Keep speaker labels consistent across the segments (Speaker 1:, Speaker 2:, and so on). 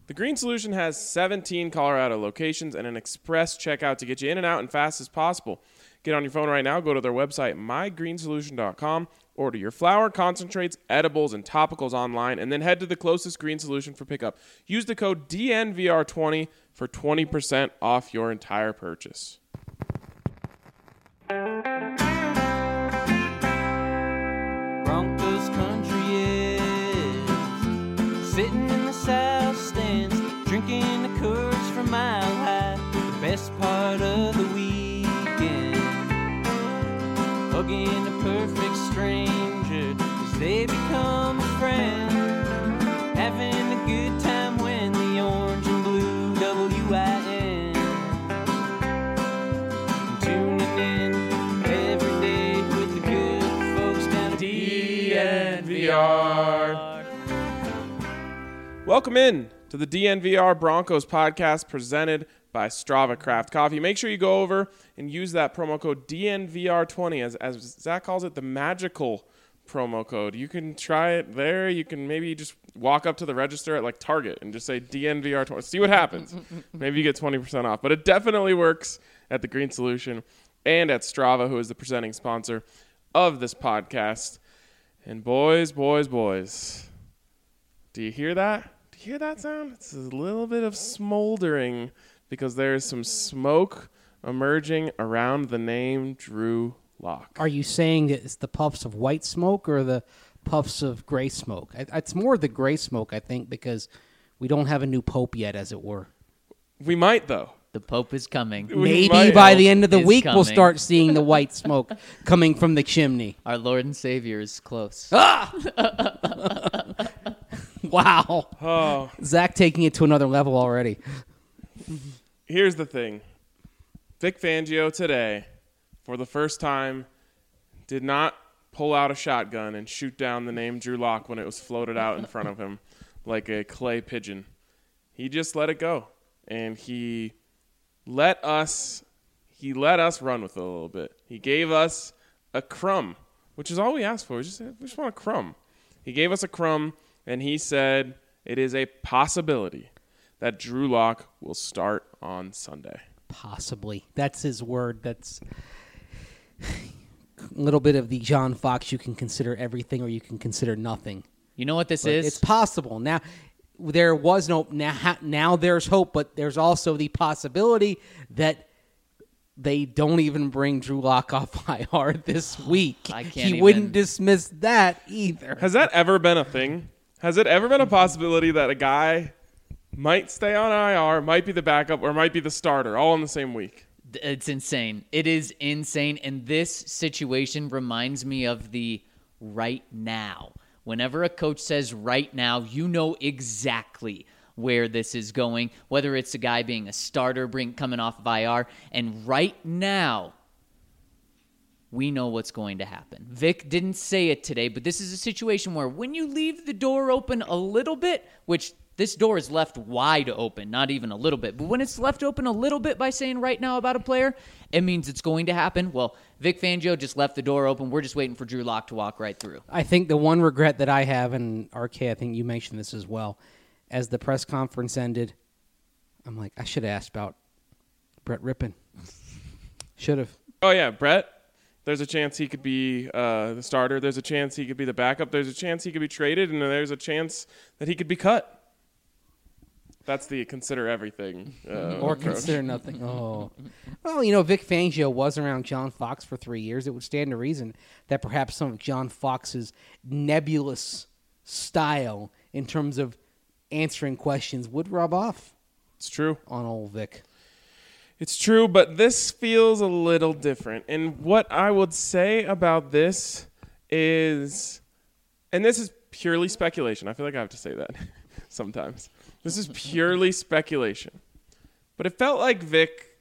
Speaker 1: The Green Solution has 17 Colorado locations and an express checkout to get you in and out as fast as possible. Get on your phone right now, go to their website, mygreensolution.com, order your flour, concentrates, edibles, and topicals online, and then head to the closest Green Solution for pickup. Use the code DNVR20 for 20% off your entire purchase.
Speaker 2: Broncos country is sitting in the south stands, drinking the Coors from Mile High. The best part of the weekend, hugging a perfect stranger as they become a friend, having a good time when the orange and blue WIN, tuning in every day with the good folks down at
Speaker 1: DNVR. Welcome in to the DNVR Broncos podcast presented by Strava Craft Coffee. Make sure you go over and use that promo code DNVR20 as Zach calls it, the magical promo code. You can try it there. You can maybe just walk up to the register at like Target and just say DNVR20. See what happens. Maybe you get 20% off. But it definitely works at the Green Solution and at Strava, who is the presenting sponsor of this podcast. And boys, do you hear that? Do you hear that sound? It's a little bit of smoldering because there's some smoke emerging around the name Drew Lock.
Speaker 3: Are you saying that it's the puffs of white smoke or the puffs of gray smoke? It's more the gray smoke, I think, because we don't have a new pope yet, as it were.
Speaker 1: We might, though.
Speaker 4: The Pope is coming.
Speaker 3: Maybe by the end of the week
Speaker 4: coming.
Speaker 3: we'll start seeing the white smoke coming from the chimney.
Speaker 4: Our Lord and Savior is close.
Speaker 3: Wow.
Speaker 1: Oh,
Speaker 3: Zach taking it to another level already.
Speaker 1: here's the thing. Vic Fangio today, for the first time, did not pull out a shotgun and shoot down the name Drew Lock when it was floated out in front of him like a clay pigeon. He just let it go, and he let us run with it a little bit. He gave us a crumb, which is all we asked for. We just want a crumb. He gave us a crumb, and he said it is a possibility that Drew Lock will start on Sunday.
Speaker 3: Possibly. That's his word. That's a little bit of the John Fox, you can consider everything or you can consider nothing.
Speaker 4: You know what this
Speaker 3: But
Speaker 4: is?
Speaker 3: it's possible. Now, there was no, now there's hope, but there's also the possibility that they don't even bring Drew Lock off IR this week.
Speaker 4: I can't
Speaker 3: wouldn't dismiss that either.
Speaker 1: Has that ever been a thing? Has it ever been a possibility that a guy might stay on IR, might be the backup, or might be the starter all in the same week?
Speaker 4: It's insane. It is insane. And this situation reminds me of the right now. Whenever a coach says right now, you know exactly where this is going, whether it's a guy being a starter, coming off of IR. And right now, we know what's going to happen. Vic didn't say it today, but this is a situation where when you leave the door open a little bit, which this door is left wide open, not even a little bit, but when it's left open a little bit by saying right now about a player, it means it's going to happen. Well, Vic Fangio just left the door open. We're just waiting for Drew Lock to walk right through.
Speaker 3: I think the one regret that I have, and RK, I think you mentioned this as well, as the press conference ended, I'm like, I should have asked about Brett Rippon. Should have.
Speaker 1: Oh, yeah, Brett. There's a chance he could be the starter. There's a chance he could be the backup. There's a chance he could be traded, and there's a chance that he could be cut. That's the consider everything
Speaker 3: or
Speaker 1: approach.
Speaker 3: consider nothing. Oh. Well, Vic Fangio was around John Fox for 3 years. It would stand to reason that perhaps some of John Fox's nebulous style in terms of answering questions would rub off.
Speaker 1: It's true.
Speaker 3: On old Vic.
Speaker 1: It's true, but this feels a little different. And what I would say about this is, and this is purely speculation. I feel like I have to say that sometimes. This is purely speculation. But it felt like Vic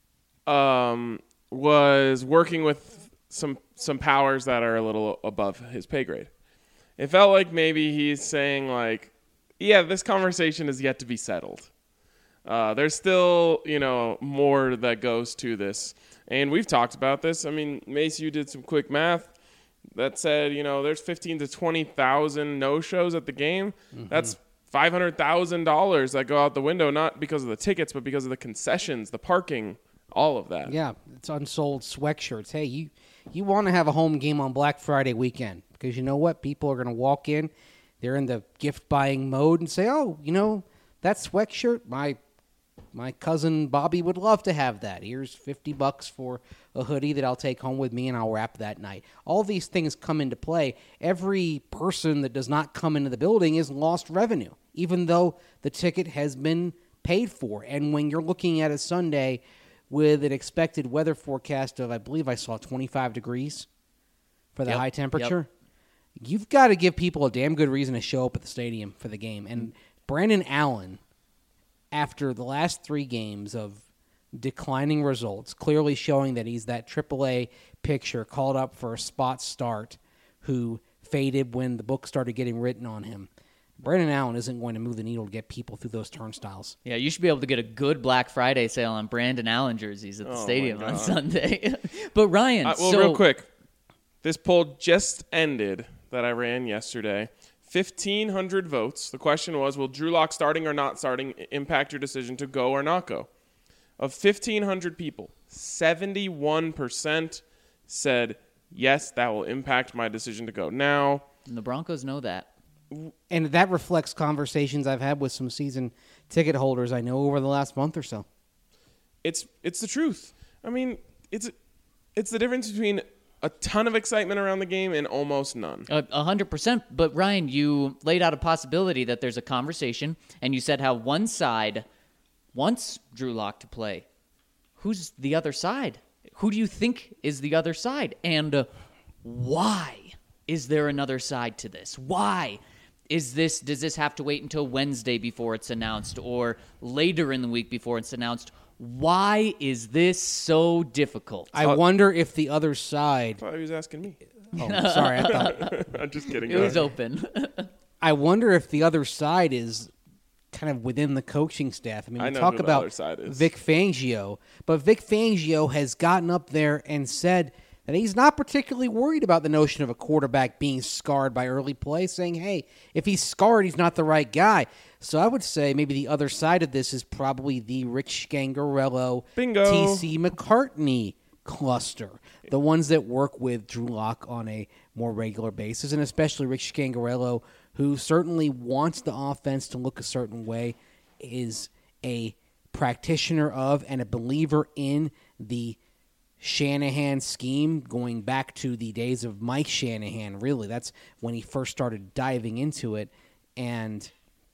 Speaker 1: was working with some powers that are a little above his pay grade. It felt like maybe he's saying, like, yeah, this conversation is yet to be settled. There's still, more that goes to this. And we've talked about this. I mean, Mace, you did some quick math that said, there's 15 to 20,000 no-shows at the game. Mm-hmm. That's $500,000 that go out the window, not because of the tickets, but because of the concessions, the parking, all of that.
Speaker 3: Yeah, it's unsold sweatshirts. Hey, you want to have a home game on Black Friday weekend because you know what? People are going to walk in, they're in the gift-buying mode and say, oh, that sweatshirt, my cousin Bobby would love to have that. Here's $50 for a hoodie that I'll take home with me and I'll wrap that night. All these things come into play. Every person that does not come into the building is lost revenue, even though the ticket has been paid for. And when you're looking at a Sunday with an expected weather forecast of, I believe I saw 25 degrees for the high temperature, you've got to give people a damn good reason to show up at the stadium for the game. And Brandon Allen, after the last 3 games of declining results, clearly showing that he's that AAA pitcher called up for a spot start who faded when the book started getting written on him. Brandon Allen isn't going to move the needle to get people through those turnstiles.
Speaker 4: Yeah, you should be able to get a good Black Friday sale on Brandon Allen jerseys at the stadium on Sunday. But Ryan,
Speaker 1: real quick, this poll just ended that I ran yesterday. 1,500 votes. The question was, will Drew Lock starting or not starting impact your decision to go or not go? Of 1,500 people, 71% said, yes, that will impact my decision to go. Now,
Speaker 4: and the Broncos know that.
Speaker 3: And that reflects conversations I've had with some season ticket holders I know over the last month or so.
Speaker 1: It's the truth. I mean, it's the difference between a ton of excitement around the game and almost none.
Speaker 4: 100%. But Ryan, you laid out a possibility that there's a conversation, and you said how one side wants Drew Lock to play. Who's the other side? Who do you think is the other side? And why is there another side to this? Why? Does this have to wait until Wednesday before it's announced or later in the week before it's announced? Why is this so difficult?
Speaker 3: I wonder if the other side...
Speaker 1: I thought he was asking me.
Speaker 3: Oh, sorry. I thought...
Speaker 1: I'm just kidding.
Speaker 4: It was open.
Speaker 3: I wonder if the other side is kind of within the coaching staff. I mean, we talk about Vic Fangio, but Vic Fangio has gotten up there and said that he's not particularly worried about the notion of a quarterback being scarred by early play, saying, hey, if he's scarred, he's not the right guy. So I would say maybe the other side of this is probably the Rich Scangarello, T.C. McCartney cluster, the ones that work with Drew Lock on a more regular basis, and especially Rich Scangarello, who certainly wants the offense to look a certain way, is a practitioner of and a believer in the Shanahan scheme going back to the days of Mike Shanahan, really. That's when he first started diving into it, and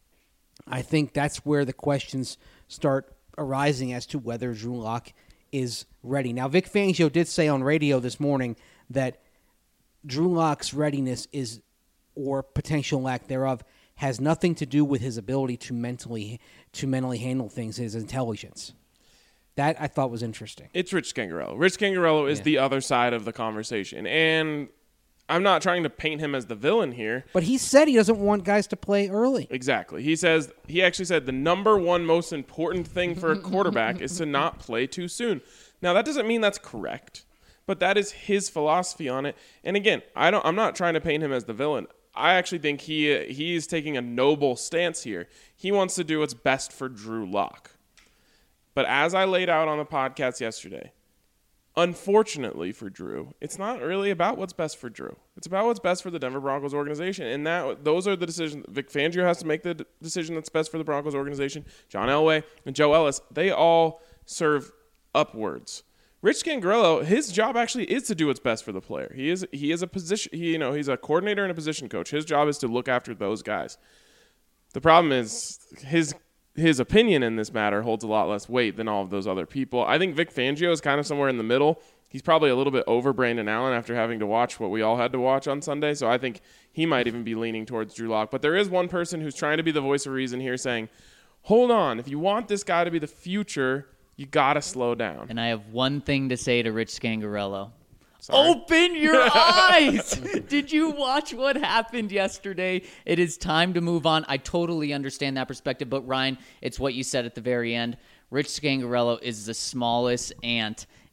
Speaker 3: I think that's where the questions start arising as to whether Drew Lock is ready. Now, Vic Fangio did say on radio this morning that Drew Lock's readiness is, or potential lack thereof, has nothing to do with his ability to mentally handle things, his intelligence. That I thought was interesting.
Speaker 1: It's Rich Scangarello. Rich Scangarello is the other side of the conversation, and I'm not trying to paint him as the villain here.
Speaker 3: But he said he doesn't want guys to play early.
Speaker 1: Exactly. He actually said the number one most important thing for a quarterback is to not play too soon. Now, that doesn't mean that's correct, but that is his philosophy on it. And again, I'm not trying to paint him as the villain. I actually think he's taking a noble stance here. He wants to do what's best for Drew Lock. But as I laid out on the podcast yesterday, unfortunately for Drew, it's not really about what's best for Drew. It's about what's best for the Denver Broncos organization. And those are the decisions. Vic Fangio has to make the decision that's best for the Broncos organization. John Elway and Joe Ellis, they all serve upwards. Rich Scangarello, his job actually is to do what's best for the player. He is a position, he's a coordinator and a position coach. His job is to look after those guys. The problem is his opinion in this matter holds a lot less weight than all of those other people. I think Vic Fangio is kind of somewhere in the middle. He's probably a little bit over Brandon Allen after having to watch what we all had to watch on Sunday, so I think he might even be leaning towards Drew Lock. But there is one person who's trying to be the voice of reason here saying, hold on, if you want this guy to be the future, you got to slow down.
Speaker 4: And I have one thing to say to Rich Scangarello.
Speaker 1: Sorry.
Speaker 4: Open your eyes! Did you watch what happened yesterday? It is time to move on. I totally understand that perspective, but Ryan, it's what you said at the very end. Rich Scangarello is the smallest ant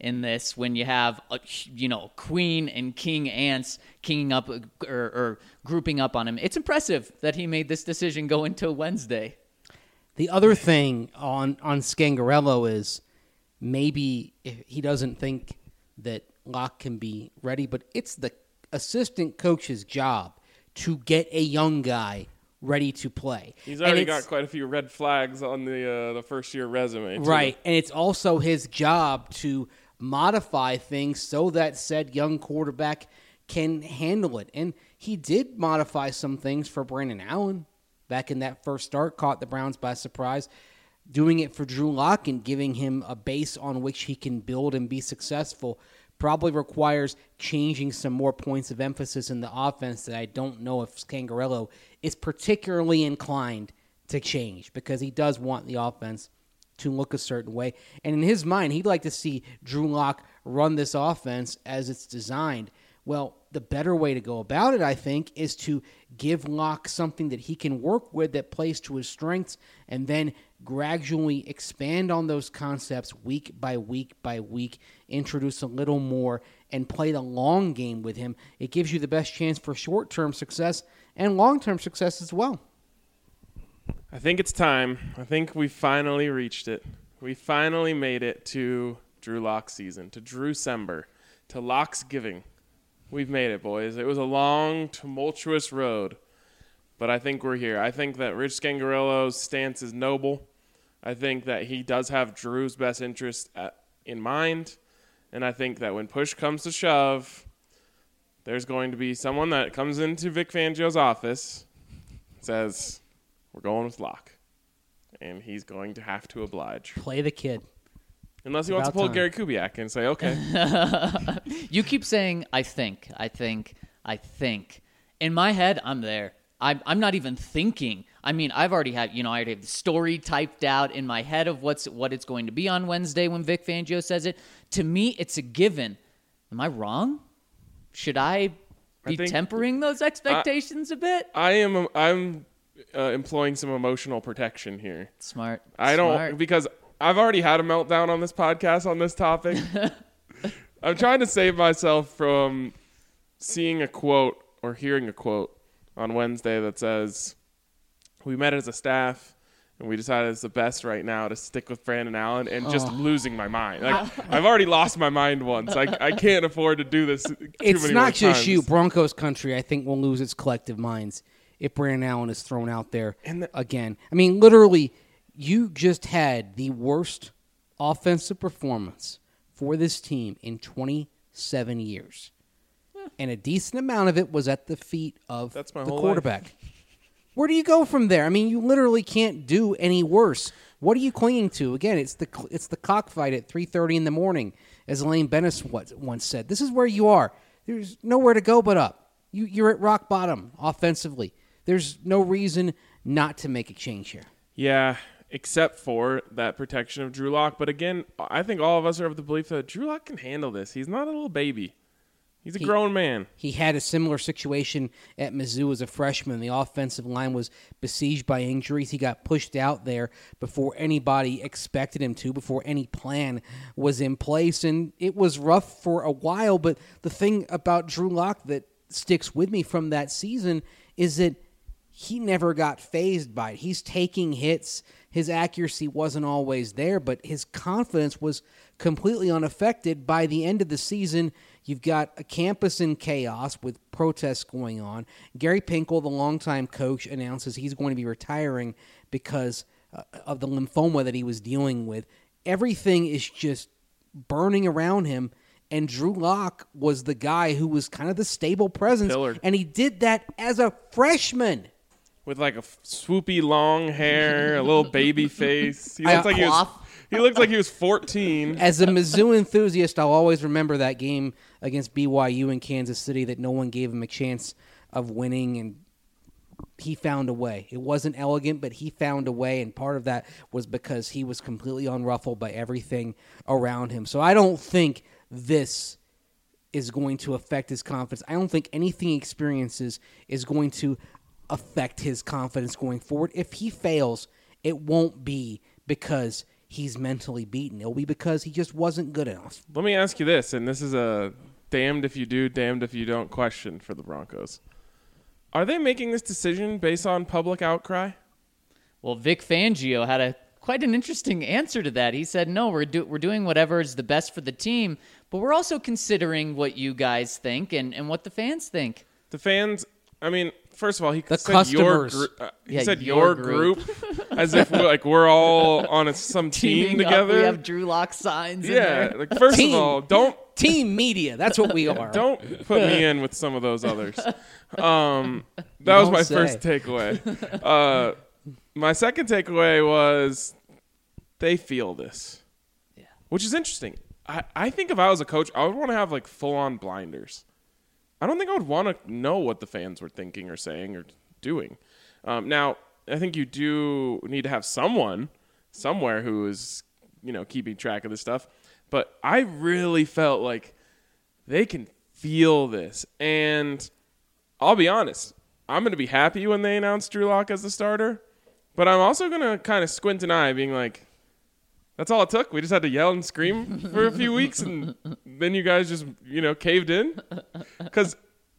Speaker 4: in this when you have queen and king ants kinging up or grouping up on him. It's impressive that he made this decision go into Wednesday.
Speaker 3: The other thing on Scangarello is maybe he doesn't think that Locke can be ready, but it's the assistant coach's job to get a young guy ready to play.
Speaker 1: He's already got quite a few red flags on the first-year resume, too.
Speaker 3: Right, and it's also his job to modify things so that said young quarterback can handle it. And he did modify some things for Brandon Allen back in that first start, caught the Browns by surprise. Doing it for Drew Lock and giving him a base on which he can build and be successful probably requires changing some more points of emphasis in the offense that I don't know if Scangarello is particularly inclined to change, because he does want the offense to look a certain way. And in his mind, he'd like to see Drew Lock run this offense as it's designed. Well, the better way to go about it, I think, is to give Locke something that he can work with that plays to his strengths, and then gradually expand on those concepts week by week by week, introduce a little more, and play the long game with him. It gives you the best chance for short-term success and long-term success as well.
Speaker 1: I think it's time. I think we finally reached it. We finally made it to Drew Lock's season, to Drewcember, to Lock's giving. We've made it, boys. It was a long, tumultuous road, but I think we're here. I think that Rich Scangarello's stance is noble. I think that he does have Drew's best interest in mind, and I think that when push comes to shove, there's going to be someone that comes into Vic Fangio's office, says, we're going with Locke, and he's going to have to oblige.
Speaker 3: Play the kid.
Speaker 1: Unless he wants to pull Gary Kubiak and say, okay.
Speaker 4: You keep saying, I think. In my head, I'm there. I'm not even thinking. I mean, I already have the story typed out in my head of what it's going to be on Wednesday when Vic Fangio says it. To me, it's a given. Am I wrong? Should I be tempering those expectations a bit?
Speaker 1: I'm employing some emotional protection here.
Speaker 4: Smart.
Speaker 1: Because I've already had a meltdown on this podcast on this topic. I'm trying to save myself from seeing a quote or hearing a quote on Wednesday that says, we met as a staff and we decided it's the best right now to stick with Brandon Allen, and just losing my mind. Like, I've already lost my mind once. I can't afford to do this too
Speaker 3: It's
Speaker 1: many
Speaker 3: not
Speaker 1: more
Speaker 3: just
Speaker 1: times.
Speaker 3: you. Broncos country, I think, will lose its collective minds if Brandon Allen is thrown out there again. I mean, literally, you just had the worst offensive performance for this team in 27 years. And a decent amount of it was at the feet of the quarterback.
Speaker 1: Life.
Speaker 3: Where do you go from there? I mean, you literally can't do any worse. What are you clinging to? Again, it's the cockfight at 3:30 in the morning, as Elaine Bennis once said. This is where you are. There's nowhere to go but up. You're at rock bottom offensively. There's no reason not to make a change here.
Speaker 1: Yeah, except for that protection of Drew Lock. But again, I think all of us are of the belief that Drew Lock can handle this. He's not a little baby. He's a grown man.
Speaker 3: He had a similar situation at Mizzou as a freshman. The offensive line was besieged by injuries. He got pushed out there before anybody expected him to, before any plan was in place. And it was rough for a while. But the thing about Drew Lock that sticks with me from that season is that he never got fazed by it. He's taking hits. His accuracy wasn't always there, but his confidence was completely unaffected. By the end of the season, you've got a campus in chaos with protests going on. Gary Pinkel, the longtime coach, announces he's going to be retiring because of the lymphoma that he was dealing with. Everything is just burning around him, and Drew Lock was the guy who was kind of the stable presence, and he did that as a freshman.
Speaker 1: With like a swoopy long hair, a little baby face. He looks like he was 14.
Speaker 3: As a Mizzou enthusiast, I'll always remember that game against BYU in Kansas City that no one gave him a chance of winning, and he found a way. It wasn't elegant, but he found a way, and part of that was because he was completely unruffled by everything around him. So I don't think this is going to affect his confidence. I don't think anything he experiences is going to affect his confidence going forward. If he fails, it won't be because he's mentally beaten. It'll be because he just wasn't good enough.
Speaker 1: Let me ask you this, and this is a damned if you do, damned if you don't question for the Broncos. Are they making this decision based on public outcry?
Speaker 4: Well, Vic Fangio had quite an interesting answer to that. He said, no, we're doing whatever is the best for the team, but we're also considering what you guys think and what the fans think.
Speaker 1: The fans, I mean, first of all, he
Speaker 3: The
Speaker 1: said
Speaker 3: customers.
Speaker 1: he
Speaker 4: Yeah,
Speaker 1: said
Speaker 4: your
Speaker 1: your group, as if we're all on some team
Speaker 4: Teaming up,
Speaker 1: together.
Speaker 4: we have Drew Lock signs in
Speaker 1: Yeah,
Speaker 4: there.
Speaker 1: like first
Speaker 3: Team.
Speaker 1: of all, don't
Speaker 3: Team media, that's what we are.
Speaker 1: put me in with some of those others. That was
Speaker 3: don't
Speaker 1: my
Speaker 3: say.
Speaker 1: first takeaway. My second takeaway was they feel this, which is interesting. I think if I was a coach, I would want to have like full on blinders. I don't think I would want to know what the fans were thinking or saying or doing. Now, I think you do need to have someone somewhere who is, keeping track of this stuff. But I really felt like they can feel this. And I'll be honest, I'm going to be happy when they announce Drew Lock as the starter. But I'm also going to kind of squint an eye being like, that's all it took? We just had to yell and scream for a few weeks and then you guys just, caved in? Because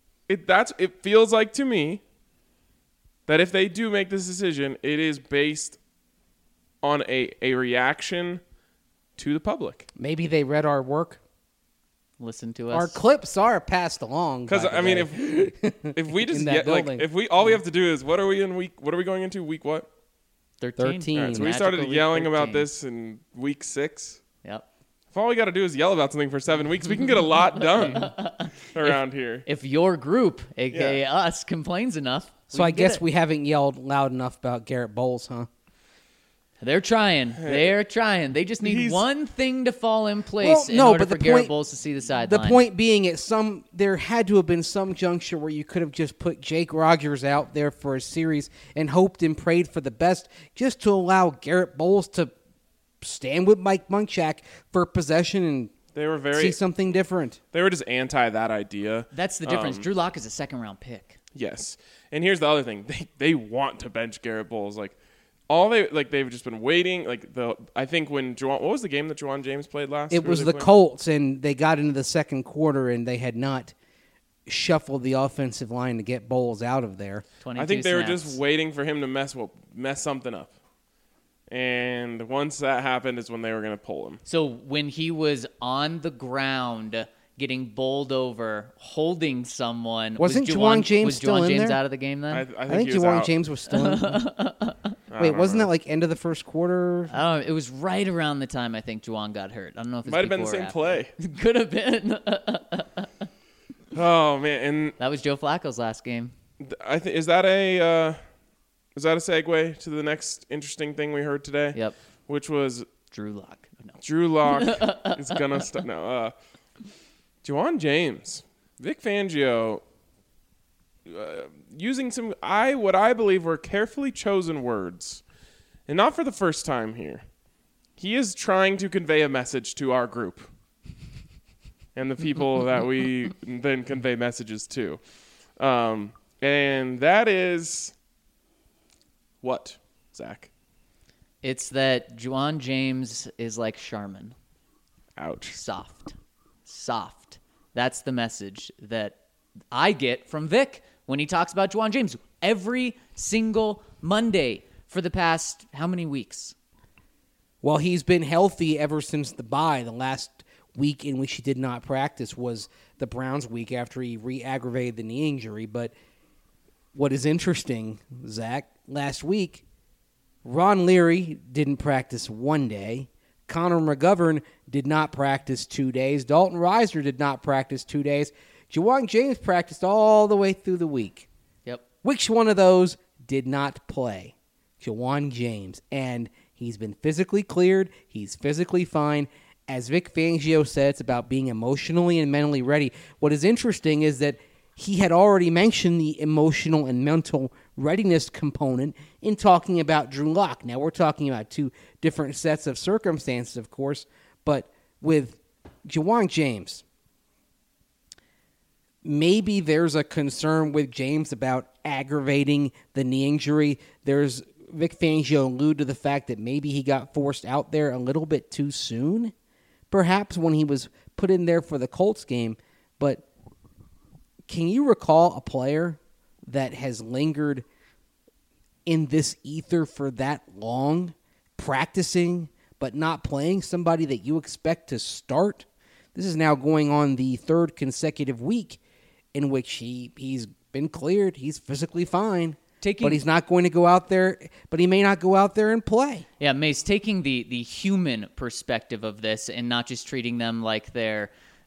Speaker 1: it feels like to me that if they do make this decision, it is based on a reaction to the public.
Speaker 3: Maybe they read our work.
Speaker 4: Listen to us.
Speaker 3: Our clips are passed along.
Speaker 1: Because
Speaker 3: by the way.
Speaker 1: if we just
Speaker 3: In that building.
Speaker 1: all we have to do is what are we going into week what?
Speaker 4: 13.
Speaker 3: 13.
Speaker 1: All right, so we
Speaker 4: Magical
Speaker 1: started
Speaker 4: week
Speaker 1: yelling
Speaker 4: 13.
Speaker 1: about this in week 6.
Speaker 4: Yep.
Speaker 1: If all we got to do is yell about something for 7 weeks, we can get a lot done around here.
Speaker 4: If your group, a.k.a. us, complains enough,
Speaker 3: So I
Speaker 4: can get
Speaker 3: guess
Speaker 4: it.
Speaker 3: we haven't yelled loud enough about Garrett Bowles, huh?
Speaker 4: They're trying. They're trying. They just need
Speaker 1: He's-
Speaker 4: one thing to fall in place in
Speaker 3: no,
Speaker 4: order
Speaker 3: but
Speaker 4: for
Speaker 3: the
Speaker 4: Garrett
Speaker 3: point-
Speaker 4: Bowles to see the
Speaker 3: The
Speaker 4: sideline.
Speaker 3: point being, there had to have been some juncture where you could have just put Jake Rogers out there for a series and hoped and prayed for the best, just to allow Garrett Bowles to stand with Mike Munchak for possession and
Speaker 1: They were
Speaker 3: see something different.
Speaker 1: They were just anti that idea.
Speaker 4: That's the difference. Drew Lock is a second-round pick.
Speaker 1: Yes. And here's the other thing. They want to bench Garrett Bowles. They've just been waiting. I think when what was the game that Juwan James played last?
Speaker 3: It
Speaker 1: Who
Speaker 3: was
Speaker 1: were
Speaker 3: the
Speaker 1: they playing?
Speaker 3: Colts, and they got into the second quarter, and they had not shuffled the offensive line to get Bowles out of there.
Speaker 4: 22
Speaker 1: I think they were
Speaker 4: snaps.
Speaker 1: just waiting for him to mess something up. And once that happened is when they were going to pull him.
Speaker 4: So when he was on the ground getting bowled over, holding someone,
Speaker 3: Wasn't
Speaker 4: was
Speaker 3: Juwan James
Speaker 4: was
Speaker 3: still
Speaker 4: Juwan
Speaker 3: in
Speaker 4: James
Speaker 3: there?
Speaker 4: out of the game then?
Speaker 1: I
Speaker 3: I think
Speaker 1: he was
Speaker 3: Juwan
Speaker 1: out.
Speaker 3: James was still in. Wait, wasn't that like end of the first quarter?
Speaker 4: I don't know. It was right around the time I think Juwan got hurt. I don't know if it's
Speaker 1: Might have been the
Speaker 4: before or
Speaker 1: same
Speaker 4: after.
Speaker 1: play.
Speaker 4: Could have been.
Speaker 1: Oh man, and
Speaker 4: That was Joe Flacco's last game.
Speaker 1: I think is that a segue to the next interesting thing we heard today?
Speaker 4: Yep.
Speaker 1: Which was
Speaker 4: Drew Lock. No.
Speaker 1: Drew Lock is gonna start. No, Juwan James, Vic Fangio, using what I believe were carefully chosen words, and not for the first time here. He is trying to convey a message to our group and the people that we then convey messages to, and that is what, Zach?
Speaker 4: It's that Juwan James is like Charmin.
Speaker 1: Ouch.
Speaker 4: Soft. That's the message that I get from Vic when he talks about Juwan James every single Monday for the past how many weeks?
Speaker 3: Well, he's been healthy ever since the bye. The last week in which he did not practice was the Browns week after he re-aggravated the knee injury. But what is interesting, Zach, last week, Ron Leary didn't practice 1 day. Connor McGovern did not practice 2 days. Dalton Reisner did not practice 2 days. Juwan James practiced all the way through the week.
Speaker 4: Yep.
Speaker 3: Which one of those did not play? Juwan James. And he's been physically cleared. He's physically fine. As Vic Fangio said, it's about being emotionally and mentally ready. What is interesting is that he had already mentioned the emotional and mental readiness component in talking about Drew Lock. Now, we're talking about two different sets of circumstances, of course, but with Juwan James, maybe there's a concern with James about aggravating the knee injury. There's Vic Fangio allude to the fact that maybe he got forced out there a little bit too soon, perhaps when he was put in there for the Colts game. But can you recall a player that has lingered in this ether for that long, practicing but not playing, somebody that you expect to start? This is now going on the third consecutive week in which he's been cleared. He's physically fine. But he's not going to go out there, but he may not go out there and play.
Speaker 4: Yeah, Mace, taking the human perspective of this and not just treating them like they're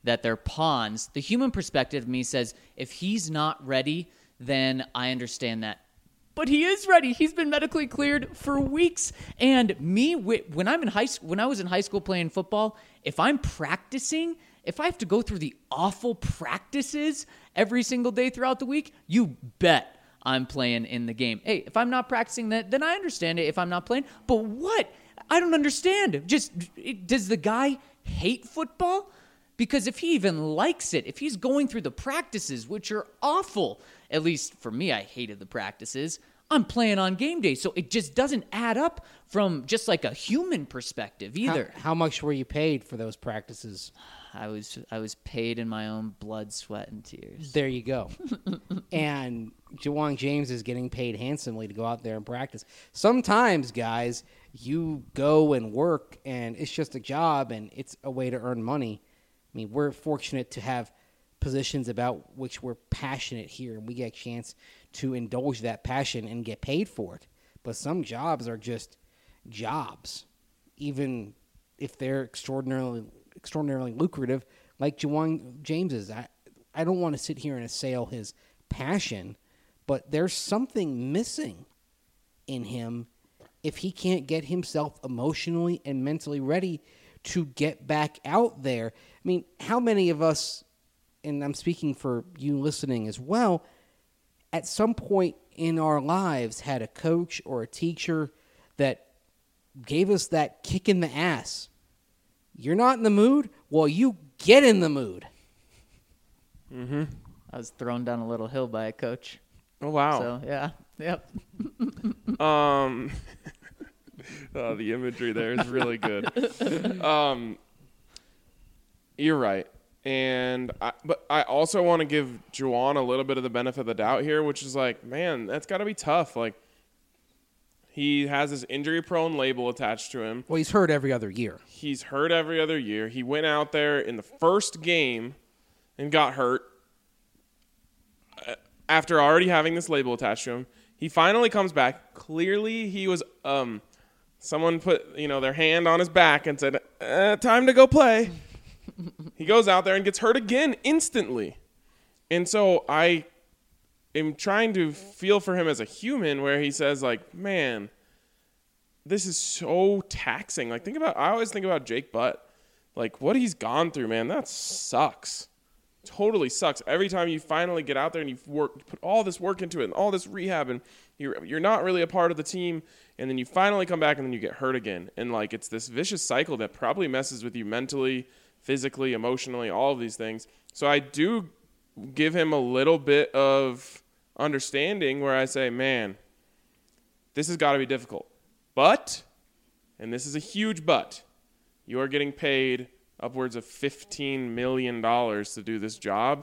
Speaker 4: pawns, the human perspective of me says, if he's not ready, then I understand that. But he is ready. He's been medically cleared for weeks. And me, when I was in high school playing football, if I'm practicing, if I have to go through the awful practices every single day throughout the week, you bet I'm playing in the game. Hey, if I'm not practicing that, then I understand it if I'm not playing. But what? I don't understand. Does the guy hate football? Because if he even likes it, if he's going through the practices, which are awful, at least for me, I hated the practices, I'm playing on game day. So it just doesn't add up from just like a human perspective either.
Speaker 3: How much were you paid for those practices?
Speaker 4: I was paid in my own blood, sweat, and tears.
Speaker 3: There you go. And Ja'Wuan James is getting paid handsomely to go out there and practice. Sometimes, guys, you go and work, and it's just a job, and it's a way to earn money. I mean, we're fortunate to have positions about which we're passionate here, and we get a chance to indulge that passion and get paid for it. But some jobs are just jobs, even if they're extraordinarily lucrative, like Ja'Wuan James is. I don't want to sit here and assail his passion, but there's something missing in him if he can't get himself emotionally and mentally ready to get back out there. I mean, how many of us, and I'm speaking for you listening as well, at some point in our lives had a coach or a teacher that gave us that kick in the ass? You're not in the mood? Well, you get in the mood.
Speaker 1: Mm-hmm.
Speaker 4: I was thrown down a little hill by a coach.
Speaker 1: Oh, wow.
Speaker 4: So, yeah. Yep.
Speaker 1: The imagery there is really good. You're right. But I also want to give Ja'Wuan a little bit of the benefit of the doubt here, which is like, man, that's got to be tough. Like, he has this injury-prone label attached to him.
Speaker 3: Well, he's hurt every other year.
Speaker 1: He's hurt every other year. He went out there in the first game and got hurt after already having this label attached to him. He finally comes back. Clearly, he was someone put their hand on his back and said, "Time to go play." He goes out there and gets hurt again instantly. And so I am trying to feel for him as a human, where he says, like, man, this is so taxing. Like, I always think about Jake Butt. Like, what he's gone through, man, that sucks. Totally sucks. Every time you finally get out there and you put all this work into it and all this rehab, and you're not really a part of the team, and then you finally come back and then you get hurt again. And, like, it's this vicious cycle that probably messes with you mentally, physically, emotionally, all of these things. So I do give him a little bit of understanding where I say, man, this has got to be difficult. But, and this is a huge but, you are getting paid upwards of $15 million to do this job.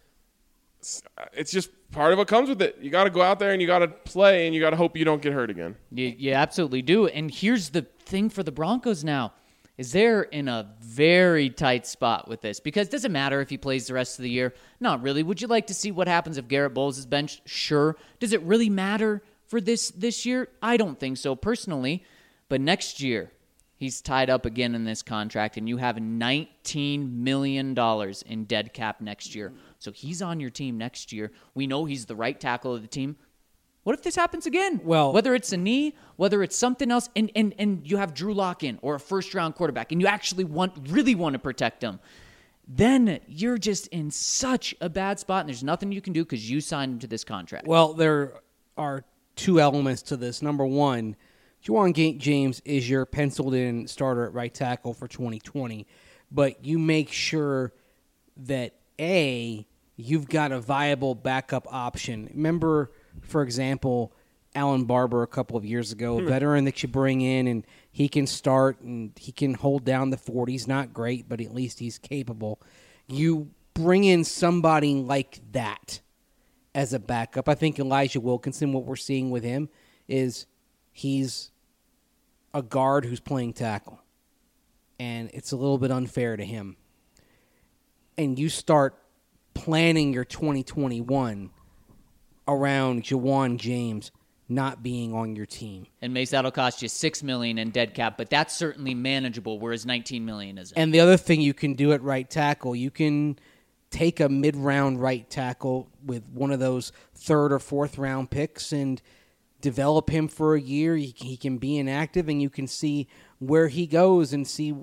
Speaker 1: It's just part of what comes with it. You got to go out there and you got to play and you got to hope you don't get hurt again.
Speaker 4: You absolutely do. And here's the thing for the Broncos now, is they're in a very tight spot with this, because it doesn't matter if he plays the rest of the year. Not really. Would you like to see what happens if Garrett Bowles is benched? Sure. Does it really matter for this year? I don't think so personally. But next year, he's tied up again in this contract, and you have $19 million in dead cap next year. So he's on your team next year. We know he's the right tackle of the team. What if this happens again?
Speaker 3: Well,
Speaker 4: whether it's a knee, whether it's something else, and you have Drew Lock in, or a first-round quarterback, and you actually really want to protect him, then you're just in such a bad spot, and there's nothing you can do because you signed him to this contract.
Speaker 3: Well, there are two elements to this. Number one, Ja'Wuan James is your penciled-in starter at right tackle for 2020, but you make sure that, A, you've got a viable backup option. Remember, for example, Alan Barber a couple of years ago, a veteran that you bring in and he can start and he can hold down the fort. He's not great, but at least he's capable. You bring in somebody like that as a backup. I think Elijah Wilkinson, what we're seeing with him is he's a guard who's playing tackle. And it's a little bit unfair to him. And you start planning your 2021 around Juwan James not being on your team.
Speaker 4: And Mace, that'll cost you $6 million in dead cap, but that's certainly manageable, whereas $19 million isn't.
Speaker 3: And the other thing you can do at right tackle, you can take a mid-round right tackle with one of those third or fourth round picks and develop him for a year. He can be inactive, and you can see where he goes and see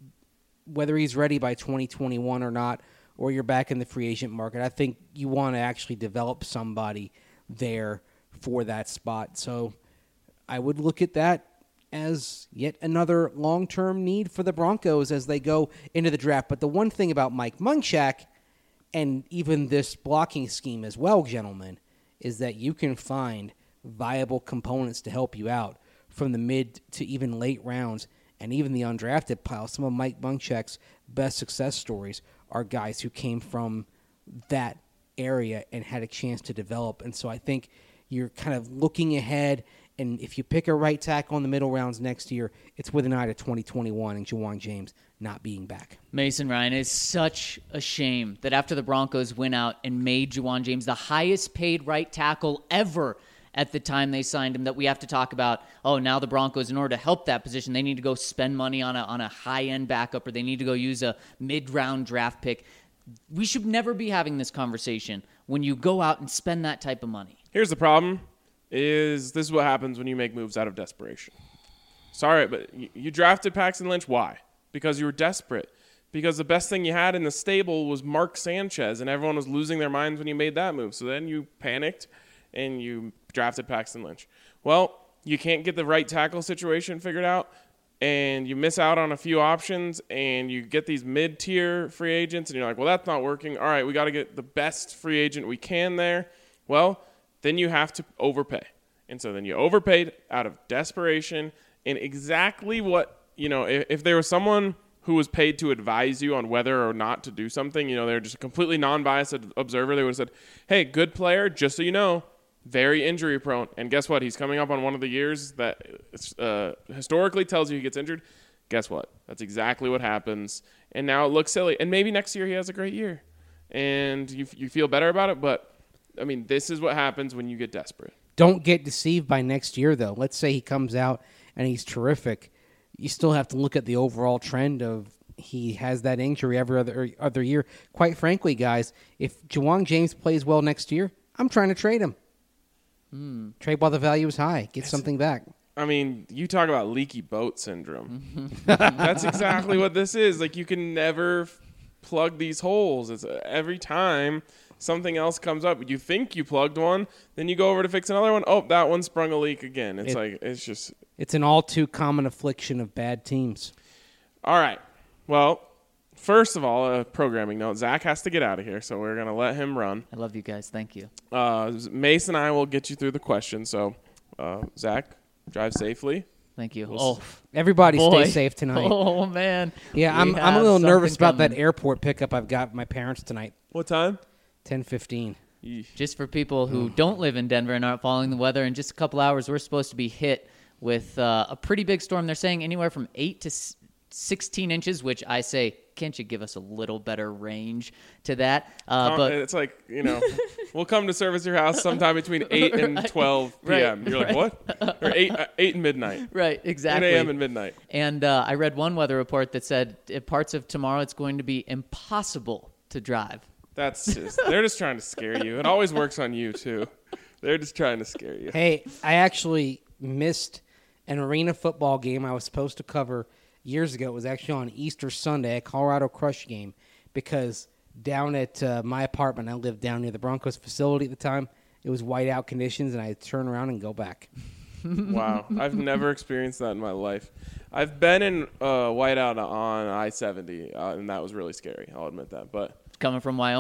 Speaker 3: whether he's ready by 2021 or not, or you're back in the free agent market. I think you want to actually develop somebody there for that spot. So I would look at that as yet another long-term need for the Broncos as they go into the draft. But the one thing about Mike Munchak, and even this blocking scheme as well, gentlemen, is that you can find viable components to help you out from the mid to even late rounds and even the undrafted pile. Some of Mike Munchak's best success stories are guys who came from that area and had a chance to develop. And so I think you're kind of looking ahead, and if you pick a right tackle in the middle rounds next year, it's with an eye to 2021 and Juwan James not being back.
Speaker 4: Mason Ryan, it's such a shame that after the Broncos went out and made Juwan James the highest paid right tackle ever at the time they signed him, that we have to talk about, now the Broncos, in order to help that position, they need to go spend money on a high-end backup, or they need to go use a mid-round draft pick. We should never be having this conversation when you go out and spend that type of money.
Speaker 1: Here's the problem, is this is what happens when you make moves out of desperation. Sorry, but you drafted Paxton Lynch. Why? Because you were desperate. Because the best thing you had in the stable was Mark Sanchez, and everyone was losing their minds when you made that move. So then you panicked, and you drafted Paxton Lynch. Well, you can't get the right tackle situation figured out, and you miss out on a few options, and you get these mid-tier free agents, and you're like, well, that's not working. All right, we got to get the best free agent we can there. Well, then you have to overpay. And so then you overpaid out of desperation, and exactly what, if there was someone who was paid to advise you on whether or not to do something, they're just a completely non-biased observer, they would have said, hey, good player, just so you know, very injury prone. And guess what? He's coming up on one of the years that historically tells you he gets injured. Guess what? That's exactly what happens. And now it looks silly. And maybe next year he has a great year. And you feel better about it. But, this is what happens when you get desperate.
Speaker 3: Don't get deceived by next year, though. Let's say he comes out and he's terrific. You still have to look at the overall trend of he has that injury every other year. Quite frankly, guys, if Juwan James plays well next year, I'm trying to trade him. Trade while the value is high. Get something back.
Speaker 1: You talk about leaky boat syndrome. That's exactly what this is. Like, you can never plug these holes. It's every time something else comes up, you think you plugged one, then you go over to fix another one. Oh, that one sprung a leak again. It's
Speaker 3: an all too common affliction of bad teams.
Speaker 1: All right. Well, first of all, a programming note. Zach has to get out of here, so we're going to let him run.
Speaker 4: I love you guys. Thank you.
Speaker 1: Mace and I will get you through the questions. So, Zach, drive safely.
Speaker 4: Thank you.
Speaker 3: Everybody stay safe tonight.
Speaker 4: Oh, man.
Speaker 3: Yeah, I'm a little nervous about that airport pickup I've got with my parents tonight.
Speaker 1: What time?
Speaker 3: 10:15.
Speaker 4: Just for people who don't live in Denver and aren't following the weather, in just a couple hours, we're supposed to be hit with a pretty big storm. They're saying anywhere from 8 to 16 inches, which I say, can't you give us a little better range to that? But
Speaker 1: it's like, we'll come to service your house sometime between 8 and 12 p.m. You're like, what? Or 8 and midnight.
Speaker 4: Right, exactly.
Speaker 1: 8 a.m. and midnight.
Speaker 4: And I read one weather report that said parts of tomorrow it's going to be impossible to drive.
Speaker 1: They're just trying to scare you. It always works on you, too. They're just trying to scare you.
Speaker 3: Hey, I actually missed an arena football game I was supposed to cover years ago. It was actually on Easter Sunday, a Colorado Crush game, because down at my apartment, I lived down near the Broncos facility at the time. It was whiteout conditions, and I had to turn around and go back.
Speaker 1: Wow. I've never experienced that in my life. I've been in whiteout on I-70, and that was really scary. I'll admit that. But
Speaker 4: coming from Wyoming?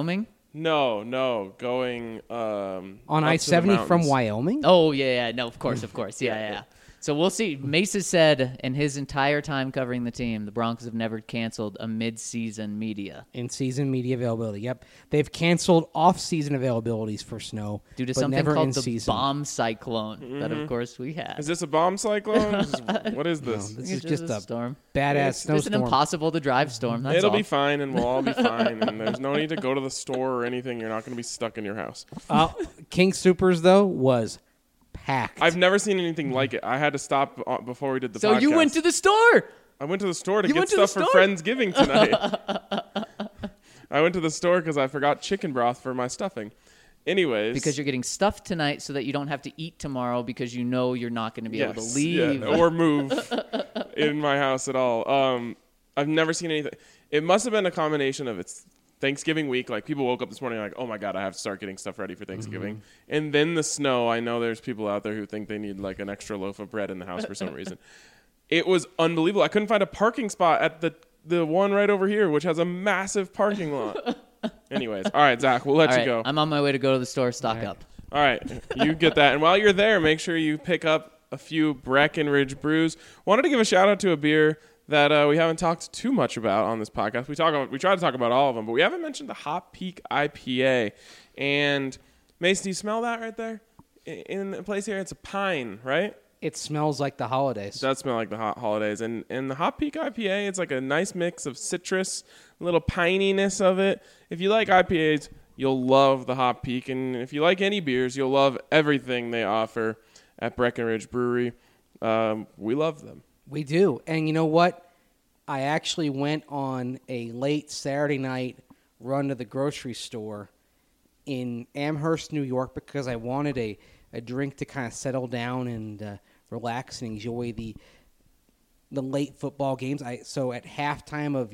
Speaker 1: No, going
Speaker 3: On
Speaker 1: up to the
Speaker 3: I-70 from
Speaker 1: mountains.
Speaker 3: Wyoming?
Speaker 4: Oh, yeah. No, of course. Yeah. So we'll see. Mesa said in his entire time covering the team, the Broncos have never canceled a mid-season media.
Speaker 3: In-season media availability. Yep. They've canceled off-season availabilities for snow.
Speaker 4: Due to
Speaker 3: but
Speaker 4: something
Speaker 3: never
Speaker 4: called
Speaker 3: in
Speaker 4: the
Speaker 3: season.
Speaker 4: bomb cyclone that, of course, we had.
Speaker 1: Is this a bomb cyclone? What is this?
Speaker 3: This
Speaker 4: It's
Speaker 3: is just a
Speaker 4: storm.
Speaker 3: badass
Speaker 1: It's
Speaker 4: Just an
Speaker 3: snowstorm.
Speaker 4: impossible-to-drive storm. That's
Speaker 1: It'll
Speaker 4: all.
Speaker 1: be fine, and we'll all be fine. And there's no need to go to the store or anything. You're not going to be stuck in your house.
Speaker 3: King Supers, though, was packed.
Speaker 1: I've never seen anything like it. I had to stop before we did the
Speaker 4: So
Speaker 1: podcast.
Speaker 4: you went to the store.
Speaker 1: I went to the store to
Speaker 4: You
Speaker 1: get
Speaker 4: went to the
Speaker 1: stuff for
Speaker 4: store?
Speaker 1: Friendsgiving tonight. I went to the store because I forgot chicken broth for my stuffing. Anyways.
Speaker 4: Because you're getting stuffed tonight so that you don't have to eat tomorrow because you know you're not going to be able to leave.
Speaker 1: Yeah, or move in my house at all. I've never seen anything. It must have been a combination of it's Thanksgiving week. Like people woke up this morning like, oh my God, I have to start getting stuff ready for Thanksgiving.
Speaker 3: Mm-hmm.
Speaker 1: And then the snow. I know there's people out there who think they need like an extra loaf of bread in the house for some reason. It was unbelievable. I couldn't find a parking spot at the one right over here, which has a massive parking lot. Anyways, all right, Zach, we'll let
Speaker 4: All
Speaker 1: you
Speaker 4: right,
Speaker 1: go.
Speaker 4: I'm on my way to go to the store, stock up.
Speaker 1: All right, you get that. And while you're there, make sure you pick up a few Breckenridge brews. Wanted to give a shout out to a beer that we haven't talked too much about on this podcast. We try to talk about all of them, but we haven't mentioned the Hop Peak IPA. And Mace, do you smell that right there in the place here? It's a pine, right?
Speaker 3: It smells like the holidays.
Speaker 1: It does smell like the holidays. And the Hop Peak IPA, it's like a nice mix of citrus, a little pininess of it. If you like IPAs, you'll love the Hop Peak. And if you like any beers, you'll love everything they offer at Breckenridge Brewery. We love them.
Speaker 3: We do. And you know what? I actually went on a late Saturday night run to the grocery store in Amherst, New York, because I wanted a drink to kind of settle down and relax and enjoy the late football games. So at halftime of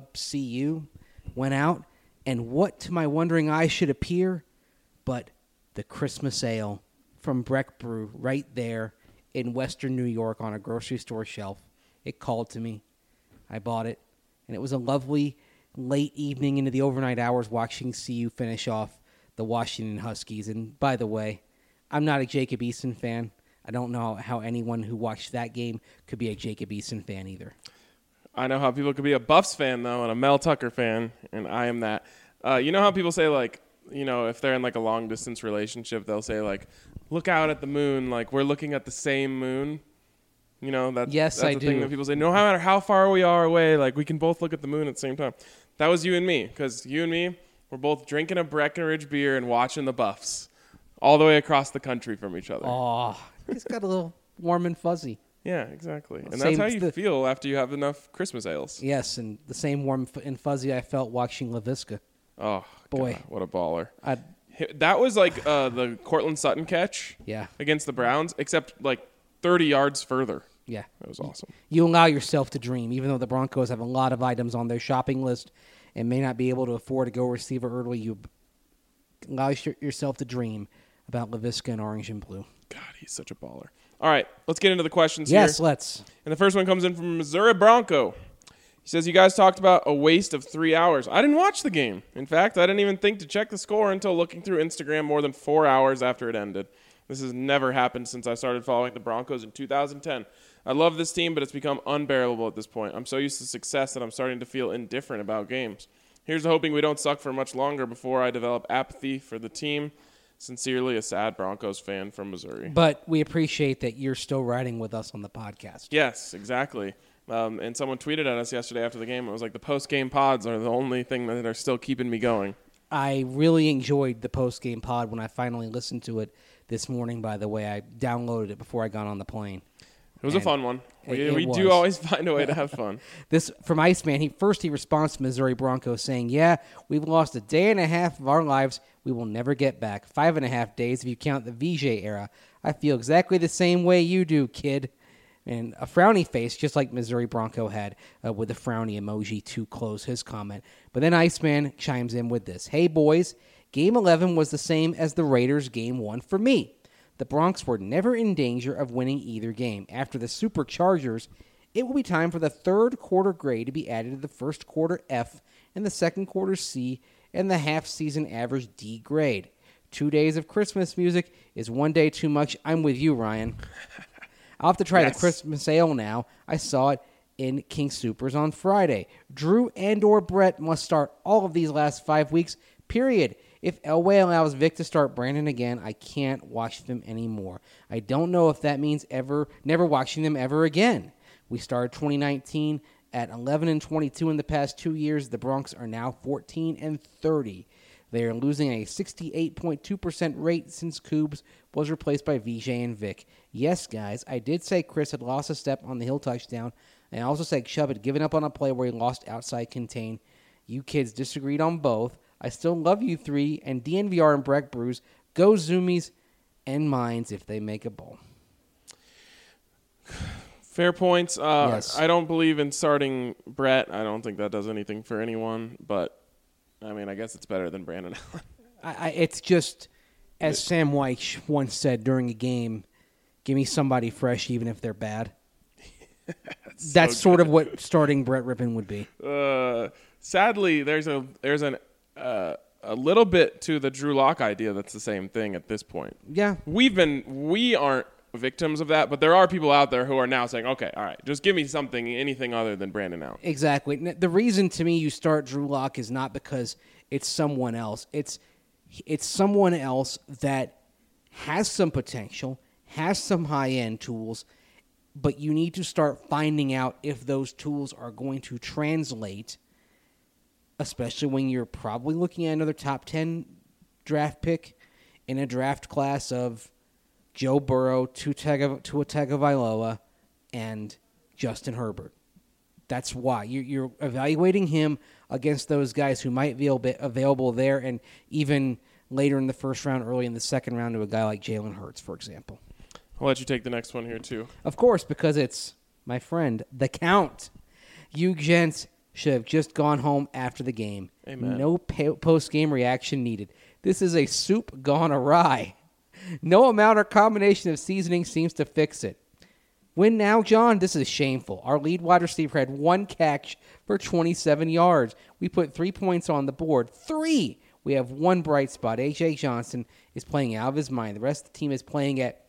Speaker 3: UW-CU, went out, and what to my wondering eyes should appear but the Christmas ale from Breck Brew right there in Western New York on a grocery store shelf. It called to me. I bought it, and it was a lovely late evening into the overnight hours watching CU finish off the Washington Huskies. And by the way, I'm not a Jacob Eason fan. I don't know how anyone who watched that game could be a Jacob Eason fan either.
Speaker 1: I know how people could be a Buffs fan, though, and a Mel Tucker fan, and I am that. You know how people say, like, you know, if they're in, like, a long-distance relationship, they'll say, like, look out at the moon, like, we're looking at the same moon. You know, that's
Speaker 3: I
Speaker 1: the
Speaker 3: do.
Speaker 1: thing that people say. No matter how far we are away, like, we can both look at the moon at the same time. That was you and me, because you and me were both drinking a Breckenridge beer and watching the Buffs all the way across the country from each other.
Speaker 3: Oh, it's got a little warm and fuzzy.
Speaker 1: Yeah, exactly. And
Speaker 3: Same-
Speaker 1: that's how you feel after you have enough Christmas ales.
Speaker 3: Yes, and the same warm and fuzzy I felt watching LaVisca.
Speaker 1: Oh,
Speaker 3: Boy.
Speaker 1: God, what a baller.
Speaker 3: I'd,
Speaker 1: That was like the Cortland Sutton catch
Speaker 3: yeah,
Speaker 1: against the Browns, except like 30 yards further.
Speaker 3: yeah.
Speaker 1: That was awesome.
Speaker 3: You allow yourself to dream, even though the Broncos have a lot of items on their shopping list and may not be able to afford to go receiver early. You allow yourself to dream about LaVisca in orange and blue.
Speaker 1: God, he's such a baller. All right, let's get into the questions
Speaker 3: Yes,
Speaker 1: here.
Speaker 3: let's.
Speaker 1: And the first one comes in from Missouri Bronco. He says, you guys talked about a waste of 3 hours. I didn't watch the game. In fact, I didn't even think to check the score until looking through Instagram more than 4 hours after it ended. This has never happened since I started following the Broncos in 2010. I love this team, but it's become unbearable at this point. I'm so used to success that I'm starting to feel indifferent about games. Here's to hoping we don't suck for much longer before I develop apathy for the team. Sincerely, a sad Broncos fan from Missouri.
Speaker 3: But we appreciate that you're still riding with us on the podcast.
Speaker 1: Yes, exactly. And someone tweeted at us yesterday after the game. It was like the post-game pods are the only thing that are still keeping me going.
Speaker 3: I really enjoyed the post-game pod when I finally listened to it this morning, by the way. I downloaded it before I got on the plane.
Speaker 1: It was a fun one.
Speaker 3: It
Speaker 1: We
Speaker 3: was.
Speaker 1: do always find a way to have fun.
Speaker 3: This from Iceman. He responds to Missouri Broncos saying, yeah, we've lost a day and a half of our lives we will never get back. 5.5 days if you count the VJ era. I feel exactly the same way you do, kid. And a frowny face, just like Missouri Bronco had with a frowny emoji to close his comment. But then Iceman chimes in with this. Hey, boys, Game 11 was the same as the Raiders' Game 1 for me. The Broncs were never in danger of winning either game. After the Superchargers, it will be time for the third quarter grade to be added to the first quarter F and the second quarter C and the half-season average D grade. 2 days of Christmas music is 1 day too much. I'm with you, Ryan. I'll have to try the Christmas ale now. I saw it in King Soopers on Friday. Drew and or Brett must start all of these last 5 weeks, period. If Elway allows Vic to start Brandon again, I can't watch them anymore. I don't know if that means never watching them ever again. We started 2019 at 11-22 in the past 2 years. The Bronx are now 14-30. They are losing a 68.2% rate since Coobs was replaced by VJ and Vic. Yes, guys, I did say Chris had lost a step on the Hill touchdown, and I also said Chubb had given up on a play where he lost outside contain. You kids disagreed on both. I still love you three, and DNVR and Breck Brews. Go Zoomies and Mines if they make a bowl.
Speaker 1: Fair points.
Speaker 3: Yes.
Speaker 1: I don't believe in starting Brett. I don't think that does anything for anyone, but I mean, I guess it's better than Brandon Allen.
Speaker 3: It's just, as Sam White once said during a game, give me somebody fresh even if they're bad. That's
Speaker 1: so
Speaker 3: sort of what starting Brett Rippon would be.
Speaker 1: Sadly, there's a little bit to the Drew Lock idea that's the same thing at this point.
Speaker 3: Yeah.
Speaker 1: We aren't victims of that, but there are people out there who are now saying, okay, all right, just give me anything other than Brandon Allen.
Speaker 3: Exactly. The reason to me you start Drew Lock is not because it's someone else. It's someone else that has some potential, has some high-end tools, but you need to start finding out if those tools are going to translate, especially when you're probably looking at another top 10 draft pick in a draft class of Joe Burrow, Tua Tagovailoa, and Justin Herbert. That's why. You're evaluating him against those guys who might be available there and even later in the first round, early in the second round to a guy like Jalen Hurts, for example.
Speaker 1: I'll let you take the next one here, too.
Speaker 3: Of course, because it's my friend, the Count. You gents should have just gone home after the game.
Speaker 1: Amen.
Speaker 3: No post-game reaction needed. This is a soup gone awry. No amount or combination of seasoning seems to fix it. Win now, John? This is shameful. Our lead wide receiver had one catch for 27 yards. We put 3 points on the board. 3! We have one bright spot. A.J. Johnson is playing out of his mind. The rest of the team is playing at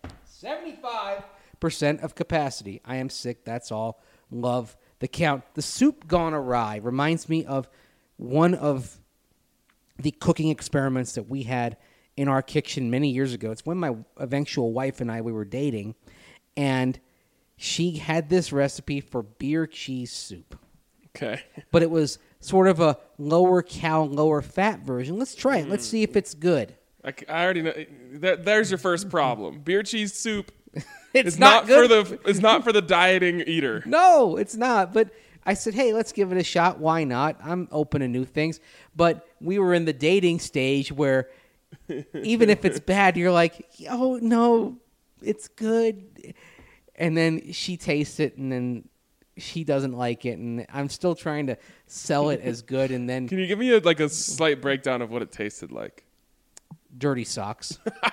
Speaker 3: 75% of capacity. I am sick. That's all. Love the Count. The soup gone awry reminds me of one of the cooking experiments that we had in our kitchen many years ago. It's when my eventual wife and we were dating, and she had this recipe for beer cheese soup.
Speaker 1: Okay.
Speaker 3: But it was sort of a lower cal, lower fat version. Let's try it. Let's see if it's good.
Speaker 1: I already know. There's your first problem. Beer cheese soup.
Speaker 3: It's not good.
Speaker 1: It's not for the dieting eater.
Speaker 3: No, it's not. But I said, hey, let's give it a shot. Why not? I'm open to new things. But we were in the dating stage where even if it's bad, you're like, oh, no, it's good. And then she tastes it, and then she doesn't like it. And I'm still trying to sell it as good. And then
Speaker 1: Can you give me a slight breakdown of what it tasted like?
Speaker 3: dirty socks.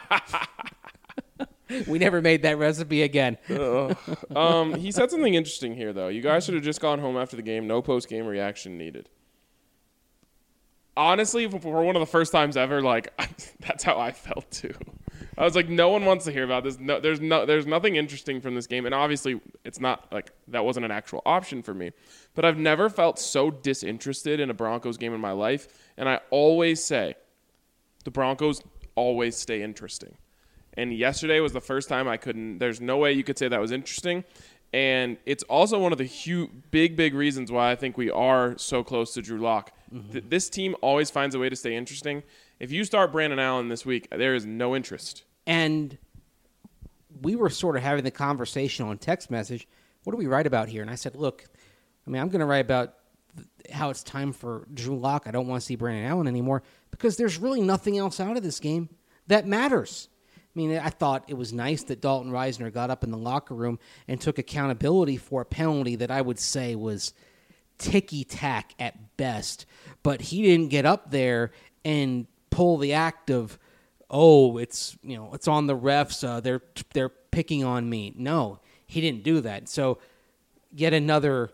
Speaker 3: We never made that recipe again.
Speaker 1: He said something interesting here, though. You guys should have just gone home after the game. No post-game reaction needed. Honestly, for one of the first times ever, that's how I felt too. I was like, no one wants to hear about this. No, there's nothing interesting from this game, and obviously, it's not that wasn't an actual option for me. But I've never felt so disinterested in a Broncos game in my life, and I always say, the Broncos always stay interesting. And yesterday was the first time I couldn't. There's no way you could say that was interesting. And it's also one of the big reasons why I think we are so close to Drew Lock. Mm-hmm. This team always finds a way to stay interesting. If you start Brandon Allen this week, there is no interest.
Speaker 3: And we were sort of having the conversation on text message. What do we write about here? And I said, look, I'm going to write about how it's time for Drew Lock. I don't want to see Brandon Allen anymore because there's really nothing else out of this game that matters. I mean, I thought it was nice that Dalton Reisner got up in the locker room and took accountability for a penalty that I would say was ticky-tack at best. But he didn't get up there and pull the act of, it's on the refs. They're picking on me. No, he didn't do that. So yet another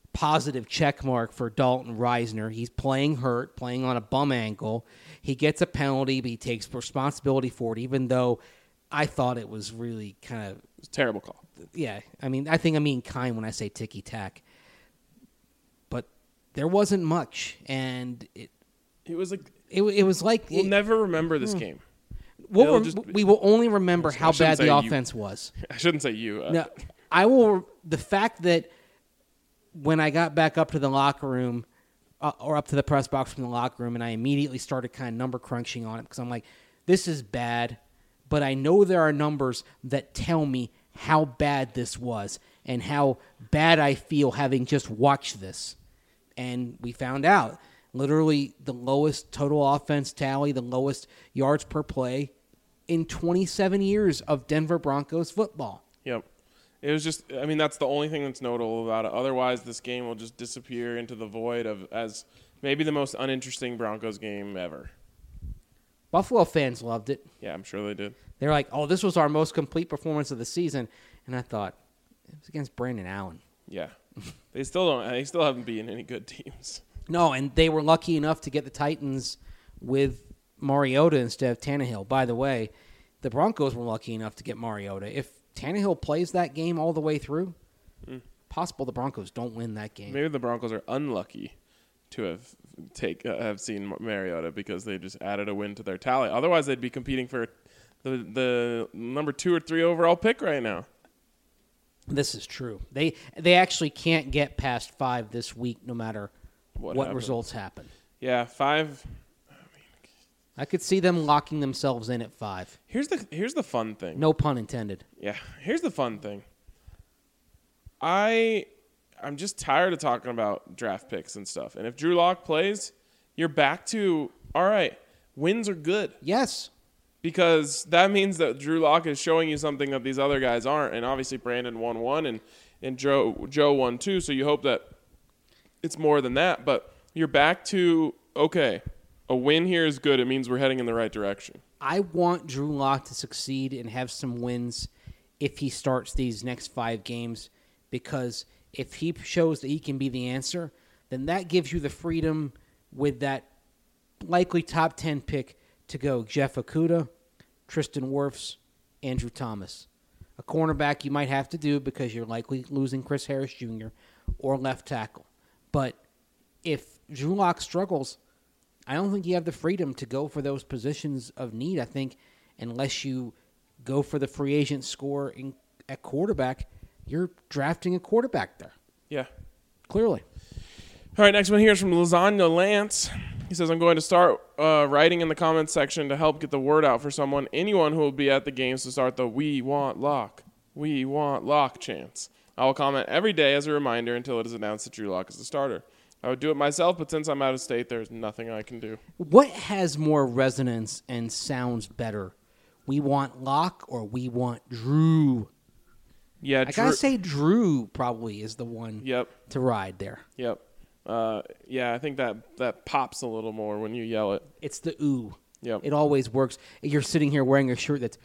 Speaker 3: positive check mark for Dalton Reisner. He's playing hurt, playing on a bum ankle. He gets a penalty, but he takes responsibility for it, even though I thought it was really kind of...
Speaker 1: It was a terrible call.
Speaker 3: Yeah, I mean, I think I'm being kind when I say ticky-tack. But there wasn't much, and it
Speaker 1: was like...
Speaker 3: It was like...
Speaker 1: We'll never remember this game.
Speaker 3: We will only remember how bad the
Speaker 1: say
Speaker 3: offense was.
Speaker 1: I shouldn't say you.
Speaker 3: No, I will... The fact that when I got back up to the locker room, or up to the press box from the locker room, and I immediately started kind of number crunching on it, because I'm like, this is bad, but I know there are numbers that tell me how bad this was and how bad I feel having just watched this. And we found out literally the lowest total offense tally, the lowest yards per play in 27 years of Denver Broncos football.
Speaker 1: Yep. It was just, I mean, that's the only thing that's notable about it. Otherwise, this game will just disappear into the void as maybe the most uninteresting Broncos game ever.
Speaker 3: Buffalo fans loved it.
Speaker 1: Yeah, I'm sure they did.
Speaker 3: They're like, oh, this was our most complete performance of the season. And I thought, it was against Brandon Allen.
Speaker 1: Yeah. They still haven't beaten any good teams.
Speaker 3: No, and they were lucky enough to get the Titans with Mariota instead of Tannehill. By the way, the Broncos were lucky enough to get Mariota. If Tannehill plays that game all the way through, possible the Broncos don't win that game.
Speaker 1: Maybe the Broncos are unlucky to have seen Mariota because they just added a win to their tally. Otherwise, they'd be competing for the number 2 or 3 overall pick right now.
Speaker 3: This is true. They actually can't get past 5 this week, no matter what results happen.
Speaker 1: Yeah, 5.
Speaker 3: I could see them locking themselves in at 5.
Speaker 1: Here's the fun thing.
Speaker 3: No pun intended.
Speaker 1: Yeah, here's the fun thing. I'm just tired of talking about draft picks and stuff. And if Drew Lock plays, you're back to, all right, wins are good.
Speaker 3: Yes.
Speaker 1: Because that means that Drew Lock is showing you something that these other guys aren't. And obviously Brandon won 1 and Joe won 2. So you hope that it's more than that. But you're back to, okay, a win here is good. It means we're heading in the right direction.
Speaker 3: I want Drew Lock to succeed and have some wins if he starts these next 5 games, because if he shows that he can be the answer, then that gives you the freedom with that likely top 10 pick to go Jeff Okudah, Tristan Wirfs, Andrew Thomas. A cornerback you might have to do because you're likely losing Chris Harris Jr. or left tackle. But if Drew Lock struggles, I don't think you have the freedom to go for those positions of need. I think unless you go for the free agent score at quarterback, you're drafting a quarterback there.
Speaker 1: Yeah.
Speaker 3: Clearly.
Speaker 1: All right, next one here is from Lasagna Lance. He says, I'm going to start writing in the comments section to help get the word out for anyone who will be at the games to start the We Want Lock chants. I will comment every day as a reminder until it is announced that Drew Lock is the starter. I would do it myself, but since I'm out of state, there's nothing I can do.
Speaker 3: What has more resonance and sounds better? We want Lock or we want Drew?
Speaker 1: Yeah,
Speaker 3: I gotta say Drew probably is the one to ride there.
Speaker 1: Yep. Yeah, I think that pops a little more when you yell it.
Speaker 3: It's the ooh.
Speaker 1: Yep.
Speaker 3: It always works. You're sitting here wearing a shirt that's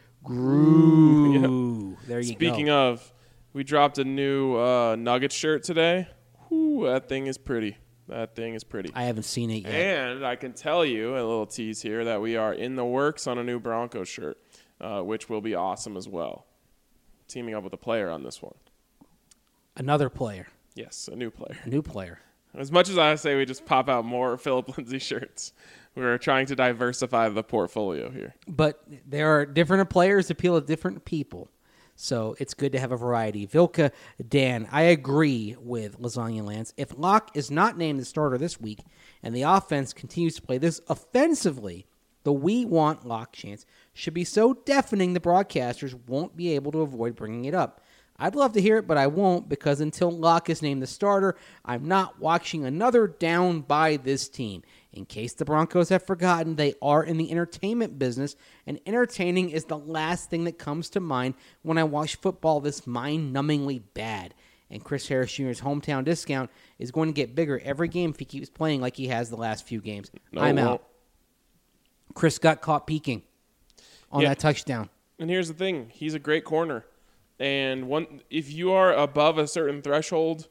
Speaker 3: Grew. Yep. There you go.
Speaker 1: Speaking of, we dropped a new Nuggets shirt today. Whew, that thing is pretty.
Speaker 3: I haven't seen it yet.
Speaker 1: And I can tell you, a little tease here, that we are in the works on a new Broncos shirt, which will be awesome as well. Teaming up with a player on this one.
Speaker 3: Another player.
Speaker 1: Yes, a new player.
Speaker 3: A new player.
Speaker 1: As much as I say we just pop out more Philip Lindsay shirts, we're trying to diversify the portfolio here.
Speaker 3: But there are different players appeal to different people. So it's good to have a variety. Vilka, Dan, I agree with Lasagna Lance. If Locke is not named the starter this week and the offense continues to play this offensively, the We Want Locke chants should be so deafening the broadcasters won't be able to avoid bringing it up. I'd love to hear it, but I won't, because until Locke is named the starter, I'm not watching another down by this team. In case the Broncos have forgotten, they are in the entertainment business, and entertaining is the last thing that comes to mind when I watch football this mind-numbingly bad. And Chris Harris Jr.'s hometown discount is going to get bigger every game if he keeps playing like he has the last few games. I'm out. Chris got caught peeking on that touchdown.
Speaker 1: And here's the thing. He's a great corner. And if you are above a certain threshold,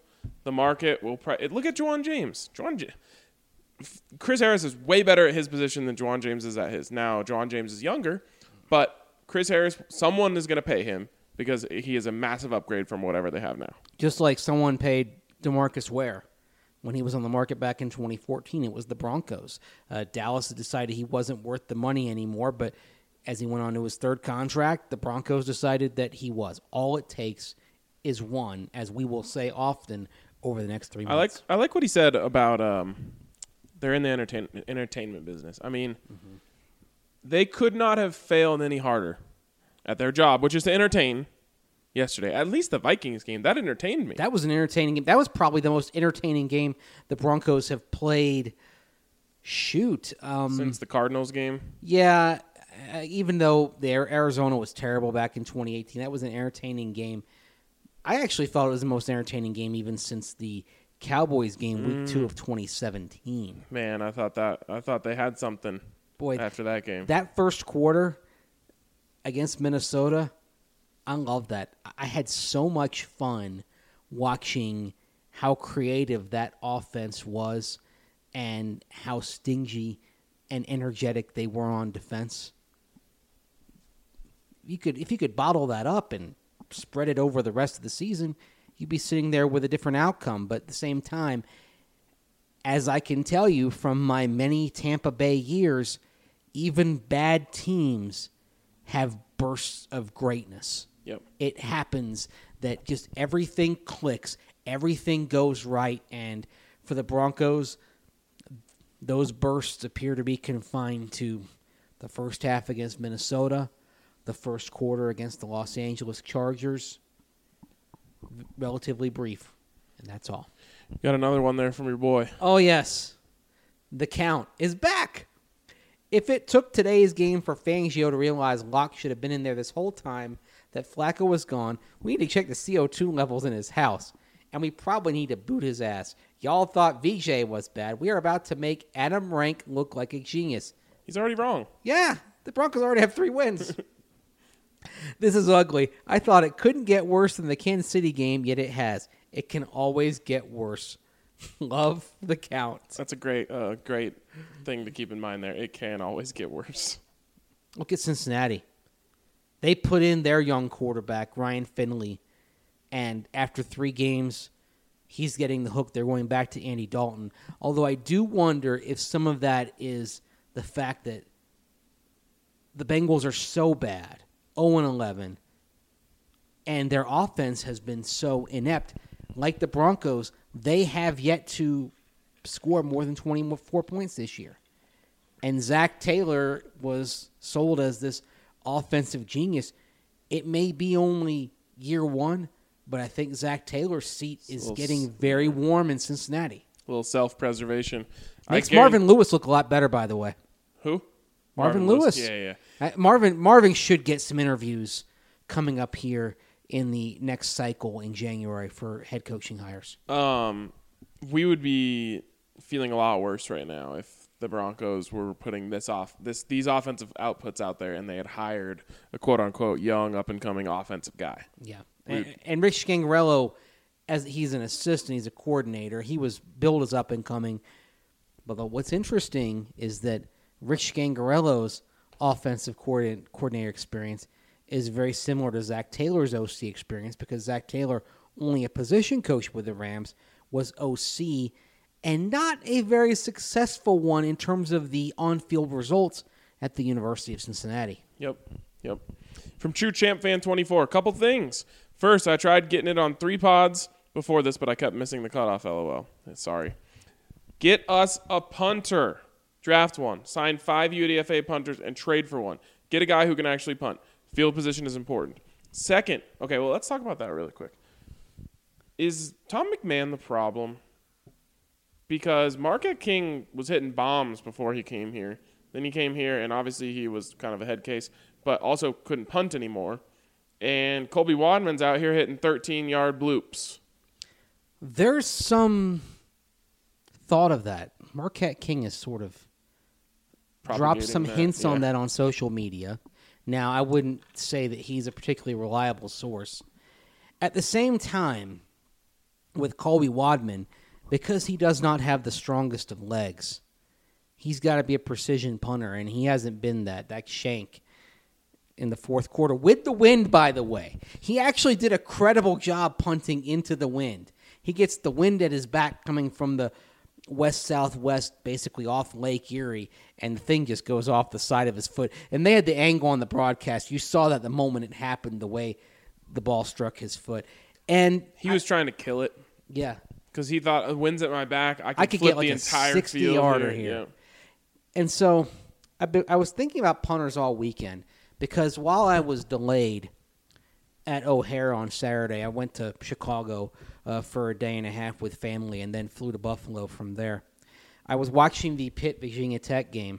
Speaker 1: the market will look at Juwan James. Chris Harris is way better at his position than Juwan James is at his. Now, Juwan James is younger, but Chris Harris, someone is going to pay him because he is a massive upgrade from whatever they have now.
Speaker 3: Just like someone paid DeMarcus Ware when he was on the market back in 2014. It was the Broncos. Dallas decided he wasn't worth the money anymore, but as he went on to his third contract, the Broncos decided that he was. All it takes is one, as we will say often over the next 3 months.
Speaker 1: I like what he said about they're in the entertainment business. I mean, they could not have failed any harder at their job, which is to entertain. Yesterday, at least the Vikings game, that entertained me.
Speaker 3: That was an entertaining game. That was probably the most entertaining game the Broncos have played. Since
Speaker 1: the Cardinals game.
Speaker 3: Yeah, even though Arizona was terrible back in 2018, that was an entertaining game. I actually thought it was the most entertaining game even since the Cowboys game, week 2 of 2017.
Speaker 1: Man, I thought they had something.
Speaker 3: Boy,
Speaker 1: after that game,
Speaker 3: that first quarter against Minnesota. I love that. I had so much fun watching how creative that offense was and how stingy and energetic they were on defense. If you could bottle that up and spread it over the rest of the season, you'd be sitting there with a different outcome. But at the same time, as I can tell you from my many Tampa Bay years, even bad teams have bursts of greatness.
Speaker 1: Yep.
Speaker 3: It happens that just everything clicks, everything goes right, and for the Broncos, those bursts appear to be confined to the first half against Minnesota, the first quarter against the Los Angeles Chargers. Relatively brief, and that's all.
Speaker 1: Got another one there from your boy.
Speaker 3: Oh, yes. The count is back. If it took today's game for Fangio to realize Locke should have been in there this whole time, that Flacco was gone, we need to check the CO2 levels in his house, and we probably need to boot his ass. Y'all thought VJ was bad. We are about to make Adam Rank look like a genius.
Speaker 1: He's already wrong.
Speaker 3: Yeah, the Broncos already have 3 wins. This is ugly. I thought it couldn't get worse than the Kansas City game, yet it has. It can always get worse. Love the count.
Speaker 1: That's a great thing to keep in mind there. It can always get worse.
Speaker 3: Look at Cincinnati. They put in their young quarterback, Ryan Finley, and after 3 games, he's getting the hook. They're going back to Andy Dalton. Although I do wonder if some of that is the fact that the Bengals are so bad, 0-11, and their offense has been so inept. Like the Broncos, they have yet to score more than 24 points this year. And Zach Taylor was sold as this offensive genius. It may be only year 1, but I think Zach Taylor's seat is getting very warm in Cincinnati.
Speaker 1: A little self-preservation.
Speaker 3: Makes Marvin Lewis look a lot better, by the way.
Speaker 1: Who?
Speaker 3: Marvin Lewis.
Speaker 1: Yeah.
Speaker 3: Marvin should get some interviews coming up here in the next cycle in January for head coaching hires.
Speaker 1: We would be feeling a lot worse right now if the Broncos were putting these offensive outputs out there and they had hired a quote-unquote young up-and-coming offensive guy.
Speaker 3: Yeah. And Rich Scangarello, as he's an assistant, he's a coordinator. He was billed as up-and-coming. But what's interesting is that Rich Scangarello's offensive coordinator experience is very similar to Zach Taylor's OC experience because Zach Taylor, only a position coach with the Rams, was OC and not a very successful one in terms of the on-field results at the University of Cincinnati.
Speaker 1: Yep. From True Champ Fan 24, a couple things. First, I tried getting it on 3 pods before this, but I kept missing the cutoff, LOL. Sorry. Get us a punter. Draft one. Sign 5 UDFA punters and trade for one. Get a guy who can actually punt. Field position is important. Second, okay, well, let's talk about that really quick. Is Tom McMahon the problem? Because Marquette King was hitting bombs before he came here. Then he came here, and obviously he was kind of a head case, but also couldn't punt anymore. And Colby Wadman's out here hitting 13-yard bloops.
Speaker 3: There's some thought of that. Marquette King has sort of dropped some hints on that on social media. Now, I wouldn't say that he's a particularly reliable source. At the same time, with Colby Wadman, because he does not have the strongest of legs, he's got to be a precision punter, and he hasn't been that. That shank in the fourth quarter with the wind, by the way. He actually did a credible job punting into the wind. He gets the wind at his back coming from the west-southwest, basically off Lake Erie, and the thing just goes off the side of his foot. And they had the angle on the broadcast. You saw that the moment it happened, the way the ball struck his foot. And
Speaker 1: He was trying to kill it
Speaker 3: yeah.
Speaker 1: because he thought, the wind's at my back. I
Speaker 3: could
Speaker 1: flip
Speaker 3: get like
Speaker 1: the
Speaker 3: a
Speaker 1: entire
Speaker 3: 60-yarder
Speaker 1: field
Speaker 3: here.
Speaker 1: Yeah.
Speaker 3: And so I was thinking about punters all weekend because while I was delayed at O'Hare on Saturday, I went to Chicago for a day and a half with family and then flew to Buffalo from there. I was watching the Pitt Virginia Tech game,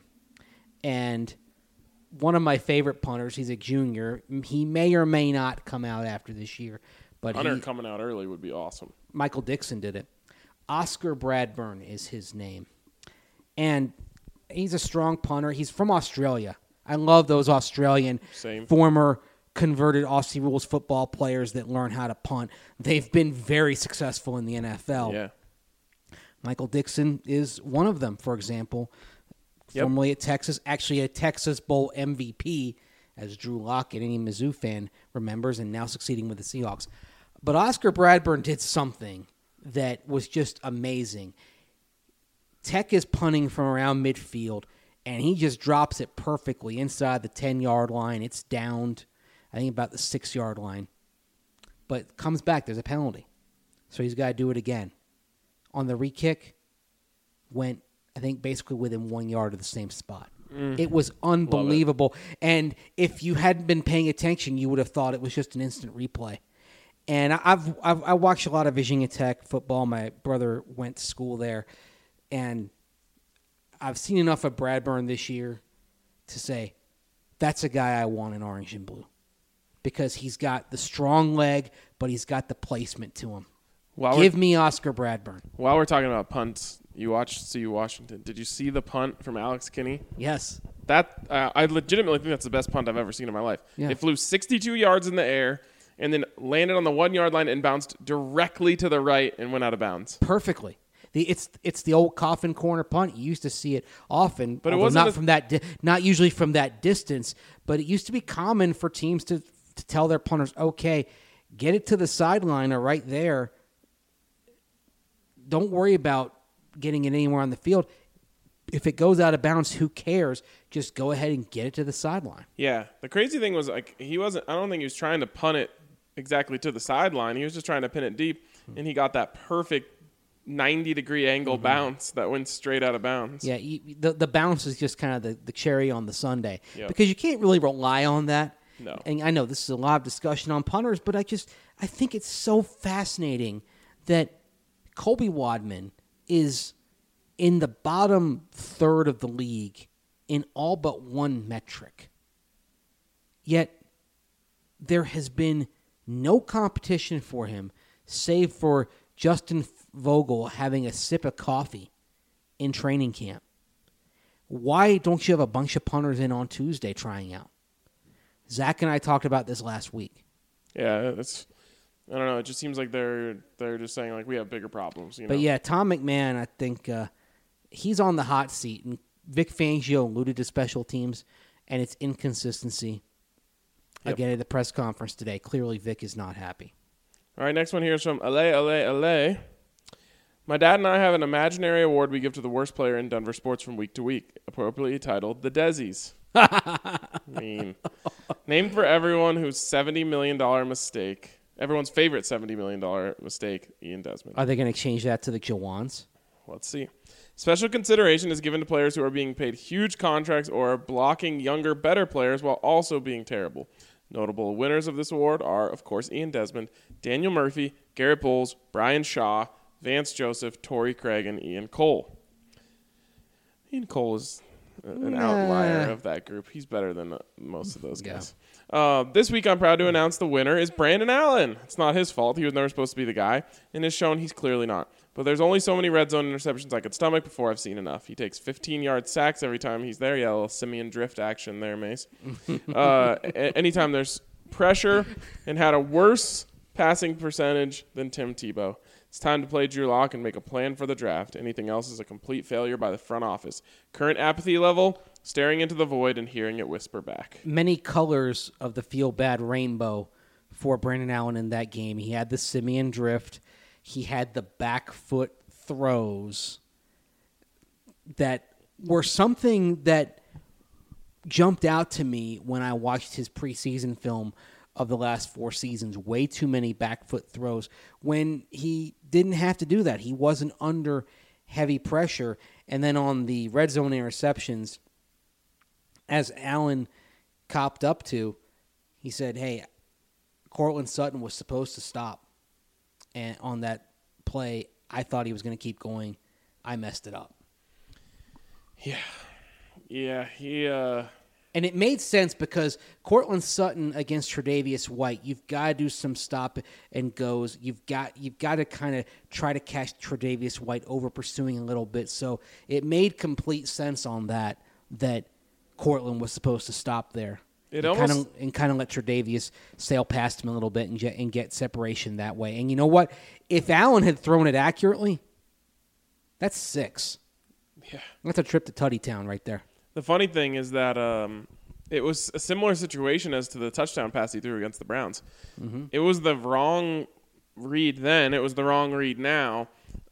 Speaker 3: and one of my favorite punters, he's a junior. He may or may not come out after this year, but
Speaker 1: Hunter coming out early would be awesome.
Speaker 3: Michael Dixon did it. Oscar Bradburn is his name. And he's a strong punter. He's from Australia. I love those Australian former converted Aussie rules football players that learn how to punt. They've been very successful in the NFL.
Speaker 1: Yeah.
Speaker 3: Michael Dixon is one of them, for example. Formerly at Texas, actually a Texas Bowl MVP, as Drew Lockett, any Mizzou fan remembers, and now succeeding with the Seahawks. But Oscar Bradburn did something that was just amazing. Tech is punting from around midfield, and he just drops it perfectly inside the 10-yard line. It's downed, I think, about the 6-yard line. But comes back. There's a penalty. So he's got to do it again. On the re-kick, went, I think, basically within 1 yard of the same spot. It was unbelievable. And if you hadn't been paying attention, you would have thought it was just an instant replay. And I watched a lot of Virginia Tech football. My brother went to school there. And I've seen enough of Bradburn this year to say, that's a guy I want in orange and blue. Because he's got the strong leg, but he's got the placement to him. Give me Oscar Bradburn.
Speaker 1: While we're talking about punts, you watched CU Washington. Did you see the punt from Alex Kinney?
Speaker 3: Yes.
Speaker 1: I legitimately think that's the best punt I've ever seen in my life.
Speaker 3: Yeah.
Speaker 1: It flew 62 yards in the air and then landed on the 1 yard line and bounced directly to the right and went out of bounds.
Speaker 3: Perfectly. It's the old coffin corner punt. You used to see it often,
Speaker 1: but it wasn't
Speaker 3: not usually from that distance. But it used to be common for teams to tell their punters, okay, get it to the sideline or right there. Don't worry about getting it anywhere on the field. If it goes out of bounds, who cares? Just go ahead and get it to the sideline.
Speaker 1: Yeah. The crazy thing was, like, I don't think he was trying to punt it exactly to the sideline. He was just trying to pin it deep, and he got that perfect 90-degree angle bounce that went straight out of bounds.
Speaker 3: Yeah, the bounce is just kind of the cherry on the sundae.
Speaker 1: Yep.
Speaker 3: Because you can't really rely on that.
Speaker 1: No.
Speaker 3: And I know this is a lot of discussion on punters, but I think it's so fascinating that Colby Wadman is in the bottom third of the league in all but one metric. Yet there has been no competition for him save for Justin Vogel having a sip of coffee in training camp. Why don't you have a bunch of punters in on Tuesday trying out? Zach and I talked about this last week.
Speaker 1: Yeah, I don't know. It just seems like they're just saying, like, we have bigger problems.
Speaker 3: But yeah, Tom McMahon, I think he's on the hot seat. And Vic Fangio alluded to special teams and its inconsistency. Again, at the press conference today, clearly Vic is not happy.
Speaker 1: All right, next one here is from LA. My dad and I have an imaginary award we give to the worst player in Denver sports from week to week, appropriately titled the Desies. Mean. Named for everyone whose $70 million mistake, everyone's favorite $70 million mistake, Ian Desmond.
Speaker 3: Are they going to change that to the Jawans?
Speaker 1: Let's see. Special consideration is given to players who are being paid huge contracts or are blocking younger, better players while also being terrible. Notable winners of this award are, of course, Ian Desmond, Daniel Murphy, Garrett Bowles, Brian Shaw, Vance Joseph, Torrey Craig, and Ian Cole. Ian Cole is an outlier of that group. He's better than most of those guys. This week, I'm proud to announce the winner is Brandon Allen. It's not his fault. He was never supposed to be the guy, and has shown he's clearly not. But there's only so many red zone interceptions I could stomach before I've seen enough. He takes 15-yard sacks every time he's there. Yeah, a little Simeon drift action there, Mace. Anytime there's pressure, and had a worse passing percentage than Tim Tebow. It's time to play Drew Lock and make a plan for the draft. Anything else is a complete failure by the front office. Current apathy level, staring into the void and hearing it whisper back.
Speaker 3: Many colors of the feel-bad rainbow for Brandon Allen in that game. He had the Simeon drift. He had the back foot throws that were something that jumped out to me when I watched his preseason film of the last 4 seasons. Way too many back foot throws when he didn't have to do that. He wasn't under heavy pressure. And then on the red zone interceptions, as Allen copped up to, he said, hey, Cortland Sutton was supposed to stop. And on that play, I thought he was going to keep going. I messed it up.
Speaker 1: Yeah, he
Speaker 3: And it made sense because Cortland Sutton against Tre'Davious White, you've got to do some stop and goes. You've got to kind of try to catch Tre'Davious White over pursuing a little bit. So it made complete sense on that Cortland was supposed to stop there. Kind of let Tre'Davious sail past him a little bit and get separation that way. And you know what? If Allen had thrown it accurately, that's 6.
Speaker 1: Yeah.
Speaker 3: That's a trip to Tutty Town right there.
Speaker 1: The funny thing is that it was a similar situation as to the touchdown pass he threw against the Browns. Mm-hmm. It was the wrong read then. It was the wrong read now.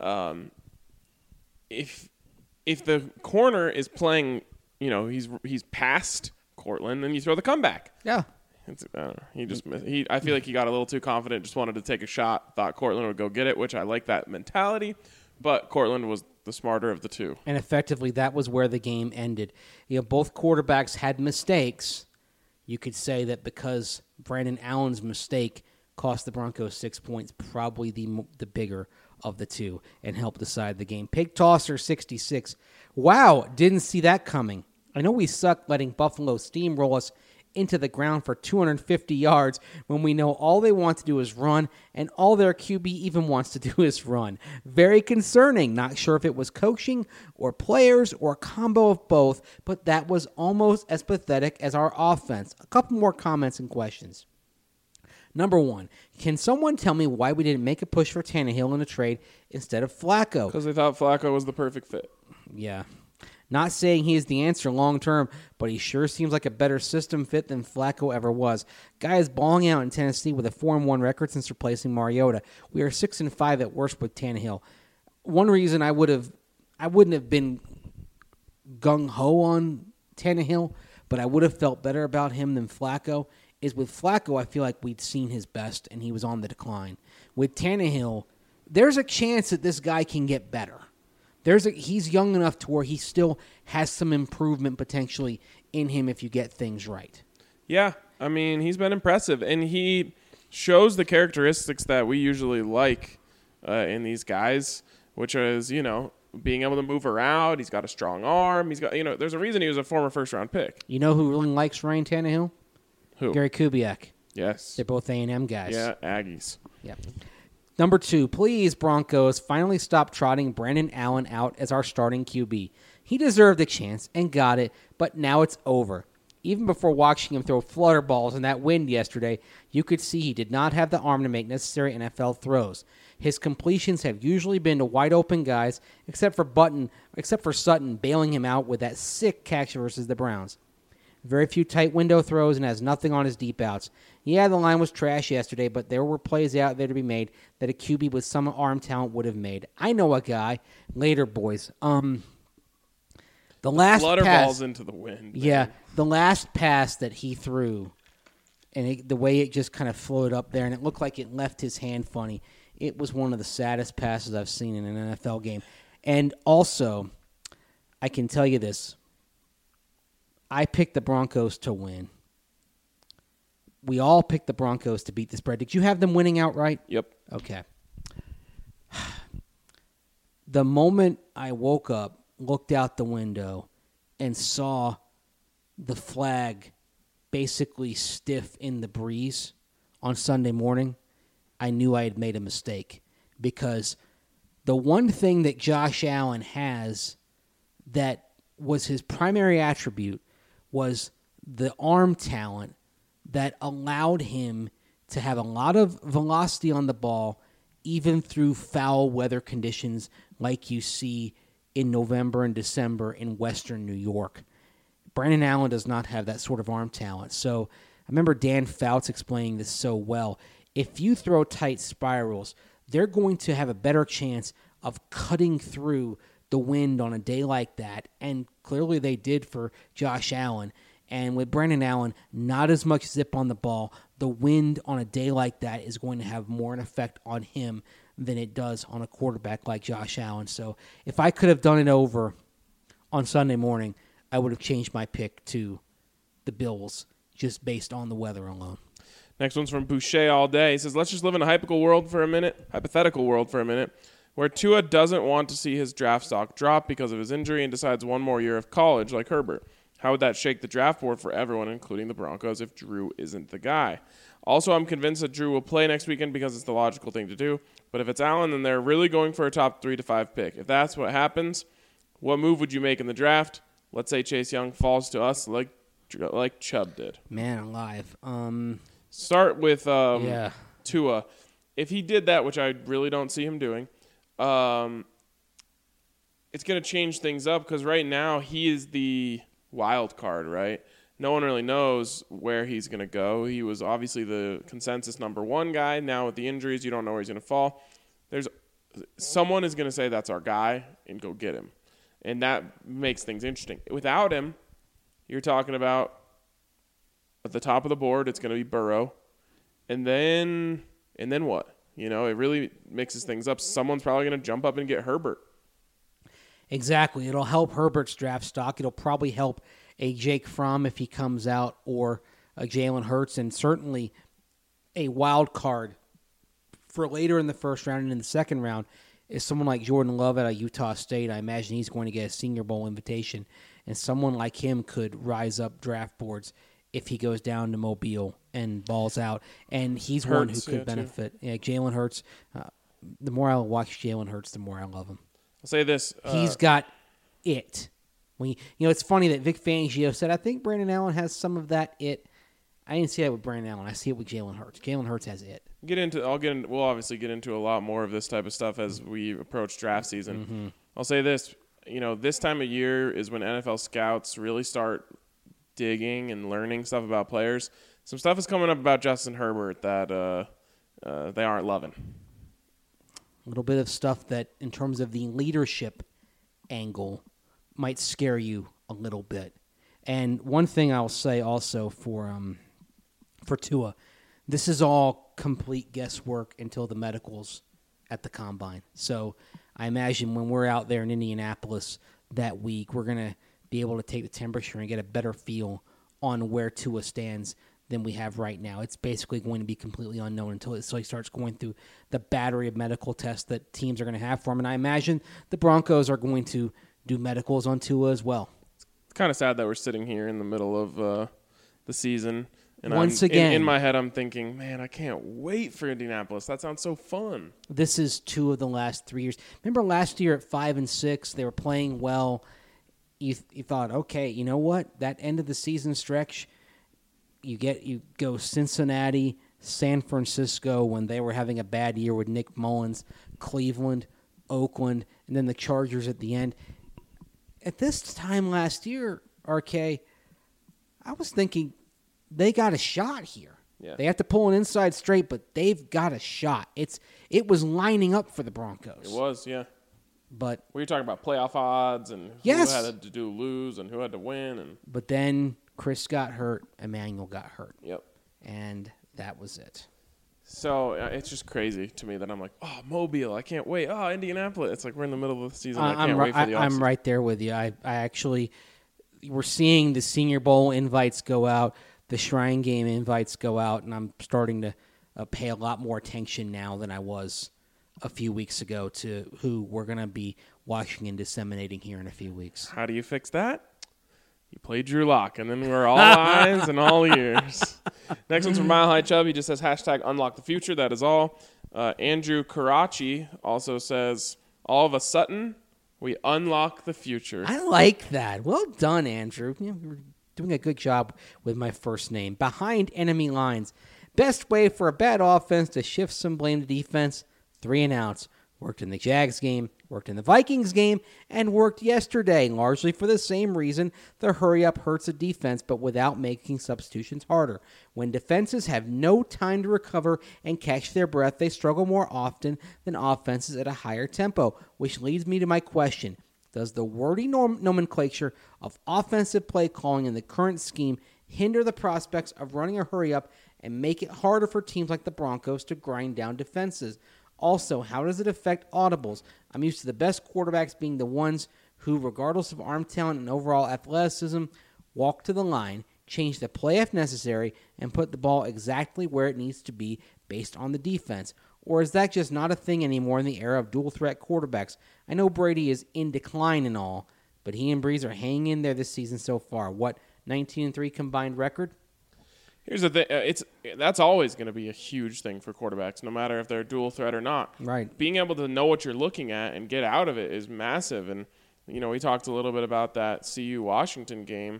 Speaker 1: If the corner is playing, he's past Cortland, then you throw the comeback.
Speaker 3: Yeah.
Speaker 1: He just missed. I feel like he got a little too confident, just wanted to take a shot, thought Cortland would go get it, which I like that mentality. But Cortland was the smarter of the two. And
Speaker 3: effectively, that was where the game ended. Both quarterbacks had mistakes. You could say that because Brandon Allen's mistake cost the Broncos 6 points, probably the bigger of the two, and helped decide the game. Pig Tosser 66. Wow, didn't see that coming. I know we suck letting Buffalo steamroll us into the ground for 250 yards when we know all they want to do is run, and all their QB even wants to do is run. Very concerning. Not sure if it was coaching or players or a combo of both, but that was almost as pathetic as our offense. A couple more comments and questions. Number 1, can someone tell me why we didn't make a push for Tannehill in a trade instead of Flacco?
Speaker 1: Because they thought Flacco was the perfect fit.
Speaker 3: Yeah. Not saying he is the answer long term, but he sure seems like a better system fit than Flacco ever was. Guy is balling out in Tennessee with a 4-1 record since replacing Mariota. We are 6-5 at worst with Tannehill. One reason I wouldn't have been gung ho on Tannehill, but I would have felt better about him than Flacco, is with Flacco I feel like we'd seen his best and he was on the decline. With Tannehill, there's a chance that this guy can get better. He's young enough to where he still has some improvement potentially in him if you get things right.
Speaker 1: Yeah, I mean, he's been impressive, and he shows the characteristics that we usually like in these guys, which is, being able to move around. He's got a strong arm. He's got, there's a reason he was a former first-round pick.
Speaker 3: You know who really likes Ryan Tannehill?
Speaker 1: Who?
Speaker 3: Gary Kubiak.
Speaker 1: Yes.
Speaker 3: They're both A&M guys.
Speaker 1: Yeah, Aggies.
Speaker 3: Yeah. Number 2, please, Broncos, finally stop trotting Brandon Allen out as our starting QB. He deserved a chance and got it, but now it's over. Even before watching him throw flutter balls in that wind yesterday, you could see he did not have the arm to make necessary NFL throws. His completions have usually been to wide-open guys, except for Sutton bailing him out with that sick catch versus the Browns. Very few tight window throws and has nothing on his deep outs. Yeah, the line was trash yesterday, but there were plays out there to be made that a QB with some arm talent would have made. I know a guy. Later, boys. The last
Speaker 1: flutter
Speaker 3: pass,
Speaker 1: balls into the wind.
Speaker 3: Yeah, the last pass that he threw, and the way it just kind of floated up there, and it looked like it left his hand funny. It was one of the saddest passes I've seen in an NFL game. And also, I can tell you this. I picked the Broncos to win. We all picked the Broncos to beat the spread. Did you have them winning outright?
Speaker 1: Yep.
Speaker 3: Okay. The moment I woke up, looked out the window, and saw the flag basically stiff in the breeze on Sunday morning, I knew I had made a mistake. Because the one thing that Josh Allen has that was his primary attribute was the arm talent that allowed him to have a lot of velocity on the ball, even through foul weather conditions like you see in November and December in Western New York. Brandon Allen does not have that sort of arm talent. So I remember Dan Fouts explaining this so well. If you throw tight spirals, they're going to have a better chance of cutting through the wind on a day like that, and clearly they did for Josh Allen. And with Brandon Allen, not as much zip on the ball, the wind on a day like that is going to have more an effect on him than it does on a quarterback like Josh Allen. So if I could have done it over on Sunday morning, I would have changed my pick to the Bills just based on the weather alone.
Speaker 1: Next one's from Boucher all day. He says, let's just live in a hypothetical world for a minute, where Tua doesn't want to see his draft stock drop because of his injury and decides one more year of college like Herbert. How would that shake the draft board for everyone, including the Broncos, if Drew isn't the guy? Also, I'm convinced that Drew will play next weekend because it's the logical thing to do. But if it's Allen, then they're really going for a top 3 to 5 pick. If that's what happens, what move would you make in the draft? Let's say Chase Young falls to us like Chubb did.
Speaker 3: Man alive.
Speaker 1: Start with
Speaker 3: Yeah.
Speaker 1: Tua. If he did that, which I really don't see him doing, it's going to change things up because right now he is the wild card, right? No one really knows where he's going to go. He was obviously the consensus number 1 guy. Now with the injuries, you don't know where he's going to fall. Someone is going to say that's our guy and go get him. And that makes things interesting. Without him, you're talking about at the top of the board, it's going to be Burrow. And then what? You know, it really mixes things up. Someone's probably going to jump up and get Herbert.
Speaker 3: Exactly. It'll help Herbert's draft stock. It'll probably help a Jake Fromm if he comes out, or a Jalen Hurts, and certainly a wild card for later in the first round and in the second round is someone like Jordan Love out of Utah State. I imagine he's going to get a Senior Bowl invitation, and someone like him could rise up draft boards if he goes down to Mobile and balls out. And he's one who could benefit. Yeah, Jalen Hurts. The more I watch Jalen Hurts, the more I love him.
Speaker 1: I'll say this.
Speaker 3: He's got it. It's funny that Vic Fangio said, I think Brandon Allen has some of that it. I didn't see that with Brandon Allen. I see it with Jalen Hurts. Jalen Hurts has it.
Speaker 1: We'll obviously get into a lot more of this type of stuff as we approach draft season.
Speaker 3: Mm-hmm.
Speaker 1: I'll say this. This time of year is when NFL scouts really start digging and learning stuff about players. Some stuff is coming up about Justin Herbert that they aren't loving.
Speaker 3: A little bit of stuff that, in terms of the leadership angle, might scare you a little bit. And one thing I'll say also for Tua, this is all complete guesswork until the medicals at the Combine. So I imagine when we're out there in Indianapolis that week, we're going to be able to take the temperature and get a better feel on where Tua stands than we have right now. It's basically going to be completely unknown until he starts going through the battery of medical tests that teams are going to have for him. And I imagine the Broncos are going to do medicals on Tua as well.
Speaker 1: It's kind of sad that we're sitting here in the middle of the season. And
Speaker 3: Once again,
Speaker 1: in my head, I'm thinking, man, I can't wait for Indianapolis. That sounds so fun.
Speaker 3: This is 2 of the last 3 years. Remember last year at 5-6, they were playing well. You thought, okay, you know what? That end of the season stretch, you go Cincinnati, San Francisco when they were having a bad year with Nick Mullins, Cleveland, Oakland, and then the Chargers at the end. At this time last year, RK, I was thinking they got a shot here.
Speaker 1: Yeah.
Speaker 3: They have to pull an inside straight, but they've got a shot. It was lining up for the Broncos.
Speaker 1: It was, yeah.
Speaker 3: But
Speaker 1: we were talking about playoff odds and
Speaker 3: yes,
Speaker 1: who had to lose and who had to win.
Speaker 3: But then Chris got hurt. Emmanuel got hurt.
Speaker 1: Yep.
Speaker 3: And that was it.
Speaker 1: So it's just crazy to me that I'm like, oh, Mobile, I can't wait. Oh, Indianapolis. It's like we're in the middle of the season. I can't wait for the offseason.
Speaker 3: I'm right there with you. I actually, we're seeing the Senior Bowl invites go out, the Shrine Game invites go out, and I'm starting to pay a lot more attention now than I was a few weeks ago to who we're going to be watching and disseminating here in a few weeks.
Speaker 1: How do you fix that? You play Drew Lock, and then we're all eyes and all ears. Next one's from Mile High Chubb. He just says, #unlock the future. That is all. Andrew Karachi also says, all of a sudden, we unlock the future.
Speaker 3: I like that. Well done, Andrew. You're doing a good job with my first name. Behind enemy lines. Best way for a bad offense to shift some blame to defense, 3 and outs. Worked in the Jags game, worked in the Vikings game, and worked yesterday, largely for the same reason. The hurry-up hurts the defense, but without making substitutions harder. When defenses have no time to recover and catch their breath, they struggle more often than offenses at a higher tempo, which leads me to my question. Does the wordy nomenclature of offensive play calling in the current scheme hinder the prospects of running a hurry-up and make it harder for teams like the Broncos to grind down defenses? Also, how does it affect audibles? I'm used to the best quarterbacks being the ones who, regardless of arm talent and overall athleticism, walk to the line, change the play if necessary, and put the ball exactly where it needs to be based on the defense. Or is that just not a thing anymore in the era of dual-threat quarterbacks? I know Brady is in decline and all, but he and Breeze are hanging in there this season so far. What, 19-3 combined record?
Speaker 1: Here's the thing. That's always going to be a huge thing for quarterbacks, no matter if they're dual threat or not.
Speaker 3: Right.
Speaker 1: Being able to know what you're looking at and get out of it is massive. And, we talked a little bit about that CU-Washington game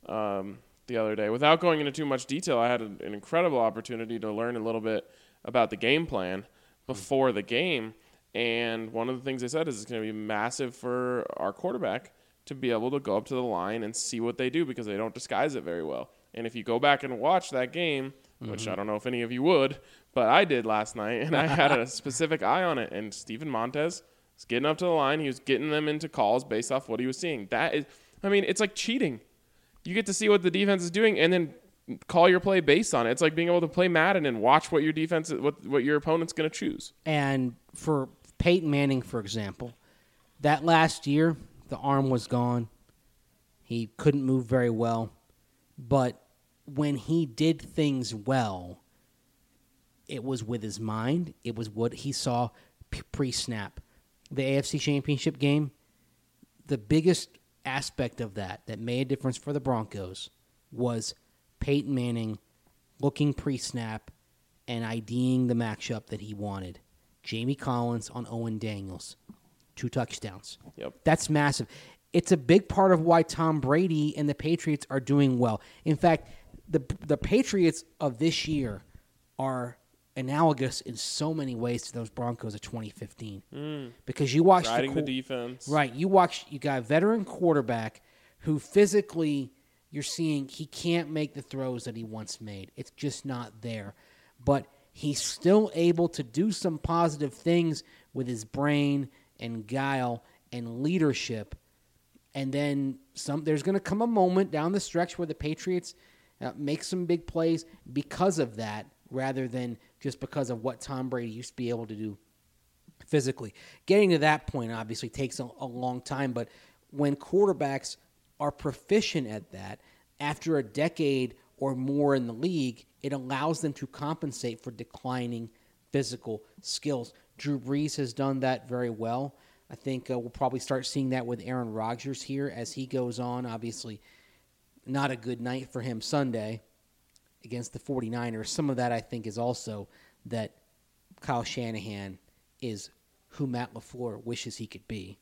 Speaker 1: the other day. Without going into too much detail, I had an incredible opportunity to learn a little bit about the game plan before the game. And one of the things they said is it's going to be massive for our quarterback to be able to go up to the line and see what they do because they don't disguise it very well. And if you go back and watch that game, which I don't know if any of you would, but I did last night, and I had a specific eye on it. And Steven Montez was getting up to the line. He was getting them into calls based off what he was seeing. It's like cheating. You get to see what the defense is doing and then call your play based on it. It's like being able to play Madden and watch what your defense, what your opponent's going to choose.
Speaker 3: And for Peyton Manning, for example, that last year, the arm was gone. He couldn't move very well. But when he did things well, it was with his mind. It was what he saw pre-snap. The AFC Championship game, the biggest aspect of that made a difference for the Broncos was Peyton Manning looking pre-snap and IDing the matchup that he wanted. Jamie Collins on Owen Daniels. 2 touchdowns.
Speaker 1: Yep.
Speaker 3: That's massive. It's a big part of why Tom Brady and the Patriots are doing well. In fact, the Patriots of this year are analogous in so many ways to those Broncos of 2015. Because you watch
Speaker 1: riding the defense.
Speaker 3: Right. You got a veteran quarterback who physically you're seeing he can't make the throws that he once made. It's just not there. But he's still able to do some positive things with his brain and guile and leadership. And then there's going to come a moment down the stretch where the Patriots make some big plays because of that rather than just because of what Tom Brady used to be able to do physically. Getting to that point obviously takes a long time, but when quarterbacks are proficient at that, after a decade or more in the league, it allows them to compensate for declining physical skills. Drew Brees has done that very well. I think we'll probably start seeing that with Aaron Rodgers here as he goes on. Obviously, not a good night for him Sunday against the 49ers. Some of that, I think, is also that Kyle Shanahan is who Matt LaFleur wishes he could be.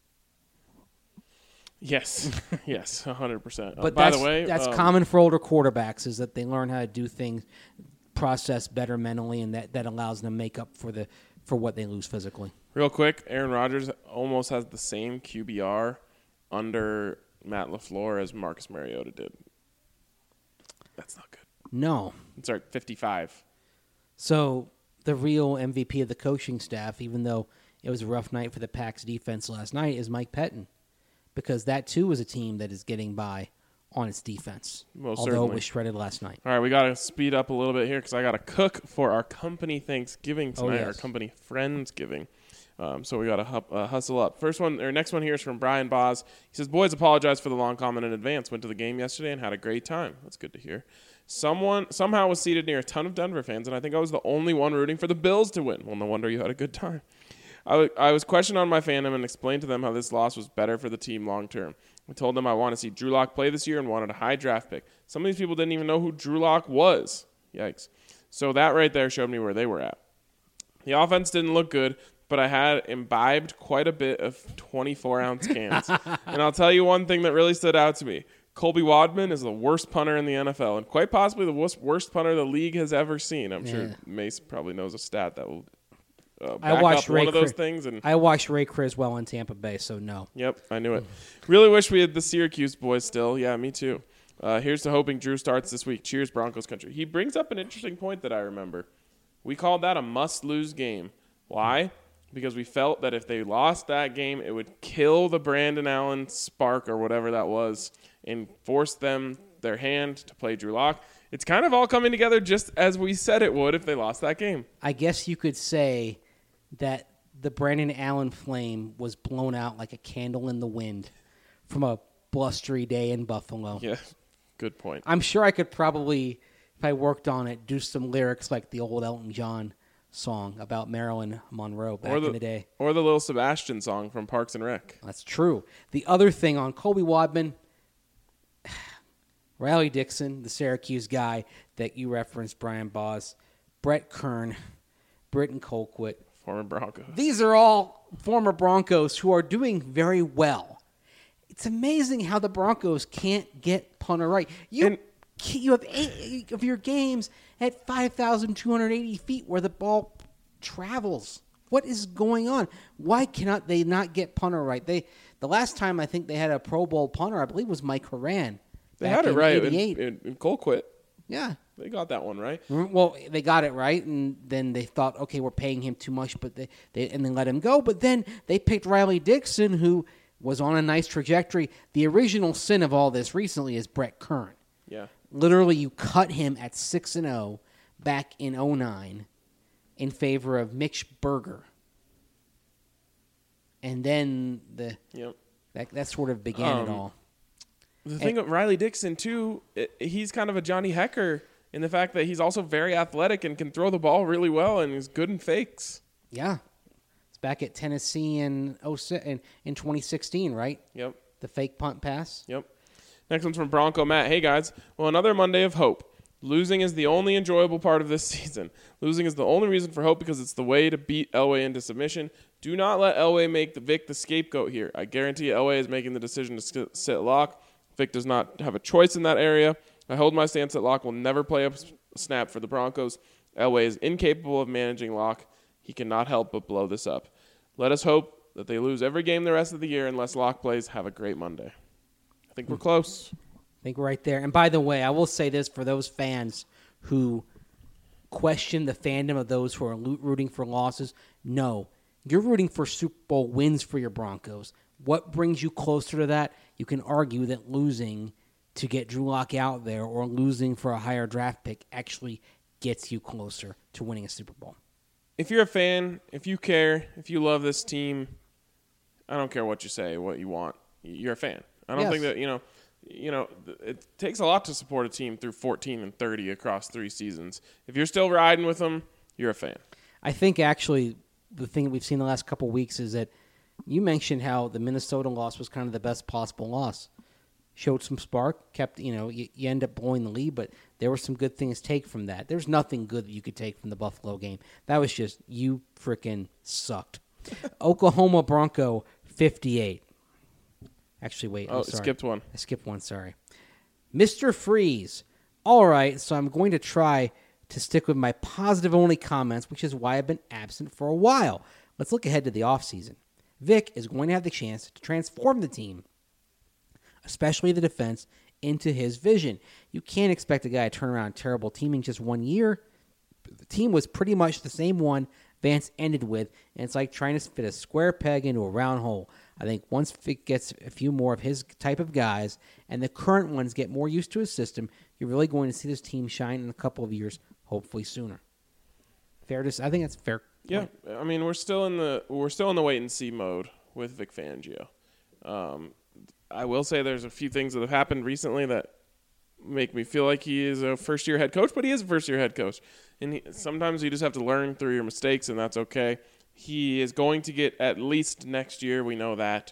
Speaker 1: Yes, 100%.
Speaker 3: But
Speaker 1: by the way,
Speaker 3: that's common for older quarterbacks is that they learn how to do things, process better mentally, and that allows them to make up for what they lose physically.
Speaker 1: Real quick, Aaron Rodgers almost has the same QBR under Matt LaFleur as Marcus Mariota did. That's not good.
Speaker 3: No.
Speaker 1: It's like 55.
Speaker 3: So the real MVP of the coaching staff, even though it was a rough night for the Packs defense last night, is Mike Pettin. Because that, too, is a team that is getting by on its defense.
Speaker 1: Most
Speaker 3: although
Speaker 1: certainly.
Speaker 3: It was shredded last night.
Speaker 1: All right, we got to speed up a little bit here because I got to cook for our company Thanksgiving tonight,
Speaker 3: yes.
Speaker 1: our company Friendsgiving. So we got to hustle up. Next one here is from Brian Boz. He says, "Boys, apologize for the long comment in advance. Went to the game yesterday and had a great time." That's good to hear. Someone somehow was seated near a ton of Denver fans, and I think I was the only one rooting for the Bills to win. Well, no wonder you had a good time. I was questioned on my fandom and explained to them how this loss was better for the team long term. I told them I want to see Drew Lock play this year and wanted a high draft pick. Some of these people didn't even know who Drew Lock was. Yikes. So that right there showed me where they were at. The offense didn't look good, but I had imbibed quite a bit of 24-ounce cans. And I'll tell you one thing that really stood out to me. Colby Wadman is the worst punter in the NFL and quite possibly the worst punter the league has ever seen. I'm sure Mace probably knows a stat that will back up one of those things. And
Speaker 3: I watched Ray Criswell in Tampa Bay, so no.
Speaker 1: Yep, I knew it. Really wish we had the Syracuse boys still. Yeah, me too. Here's to hoping Drew starts this week. Cheers, Broncos country. He brings up an interesting point that I remember. We called that a must-lose game. Why? Because we felt that if they lost that game, it would kill the Brandon Allen spark or whatever that was and force their hand to play Drew Lock. It's kind of all coming together just as we said it would if they lost that game.
Speaker 3: I guess you could say that the Brandon Allen flame was blown out like a candle in the wind from a blustery day in Buffalo.
Speaker 1: Yeah, good point.
Speaker 3: I'm sure I could probably, if I worked on it, do some lyrics like the old Elton John song about Marilyn Monroe back in the day.
Speaker 1: Or the Lil Sebastian song from Parks and Rec.
Speaker 3: That's true. The other thing on Colby Wadman, Riley Dixon, the Syracuse guy that you referenced, Brian Boss, Brett Kern, Britton Colquitt.
Speaker 1: Former Broncos.
Speaker 3: These are all former Broncos who are doing very well. It's amazing how the Broncos can't get punter right. You have 8 of your games at 5,280 feet where the ball travels. What is going on? Why cannot they not get punter right? The last time I think they had a Pro Bowl punter, I believe, was Mike Horan.
Speaker 1: They had it right in Colquitt.
Speaker 3: Yeah.
Speaker 1: They got that one right.
Speaker 3: Well, they got it right, and then they thought, okay, we're paying him too much, but they let him go. But then they picked Riley Dixon, who was on a nice trajectory. The original sin of all this recently is Brett Kern.
Speaker 1: Yeah.
Speaker 3: Literally, you cut him at 6-0 back in 2009 in favor of Mitch Berger. And then that sort of began it all.
Speaker 1: The thing of Riley Dixon, too, he's kind of a Johnny Hecker in the fact that he's also very athletic and can throw the ball really well and is good in fakes.
Speaker 3: Yeah. It's back at Tennessee in 2016, right?
Speaker 1: Yep.
Speaker 3: The fake punt pass.
Speaker 1: Yep. Next one's from Bronco Matt. Hey, guys. Well, another Monday of hope. Losing is the only enjoyable part of this season. Losing is the only reason for hope because it's the way to beat Elway into submission. Do not let Elway make Vic the scapegoat here. I guarantee Elway is making the decision to sit Lock. Vic does not have a choice in that area. I hold my stance that Lock will never play a snap for the Broncos. Elway is incapable of managing Lock. He cannot help but blow this up. Let us hope that they lose every game the rest of the year unless Lock plays. Have a great Monday. I think we're close.
Speaker 3: I think we're right there. And by the way, I will say this for those fans who question the fandom of those who are rooting for losses. No, you're rooting for Super Bowl wins for your Broncos. What brings you closer to that? You can argue that losing to get Drew Lock out there or losing for a higher draft pick actually gets you closer to winning a Super Bowl.
Speaker 1: If you're a fan, if you care, if you love this team, I don't care what you say, what you want. You're a fan. I don't think that, it takes a lot to support a team through 14-30 across 3 seasons. If you're still riding with them, you're a fan.
Speaker 3: I think actually the thing that we've seen the last couple of weeks is that you mentioned how the Minnesota loss was kind of the best possible loss. Showed some spark, kept, you end up blowing the lead, but there were some good things to take from that. There's nothing good that you could take from the Buffalo game. That was just, you freaking sucked. Oklahoma Bronco 58. Actually, wait.
Speaker 1: Oh,
Speaker 3: sorry.
Speaker 1: skipped one.
Speaker 3: I skipped one, sorry. Mr. Freeze. All right, so I'm going to try to stick with my positive-only comments, which is why I've been absent for a while. Let's look ahead to the offseason. Vic is going to have the chance to transform the team, especially the defense, into his vision. You can't expect a guy to turn around a terrible team in just 1 year. The team was pretty much the same one Vance ended with, and it's like trying to fit a square peg into a round hole. I think once Vic gets a few more of his type of guys and the current ones get more used to his system, you're really going to see this team shine in a couple of years, hopefully sooner. I think that's fair.
Speaker 1: Yeah, I mean we're still in the wait and see mode with Vic Fangio. I will say there's a few things that have happened recently that make me feel like he is a first-year head coach, but he is a first-year head coach. And sometimes you just have to learn through your mistakes, and that's okay. He is going to get at least next year. We know that.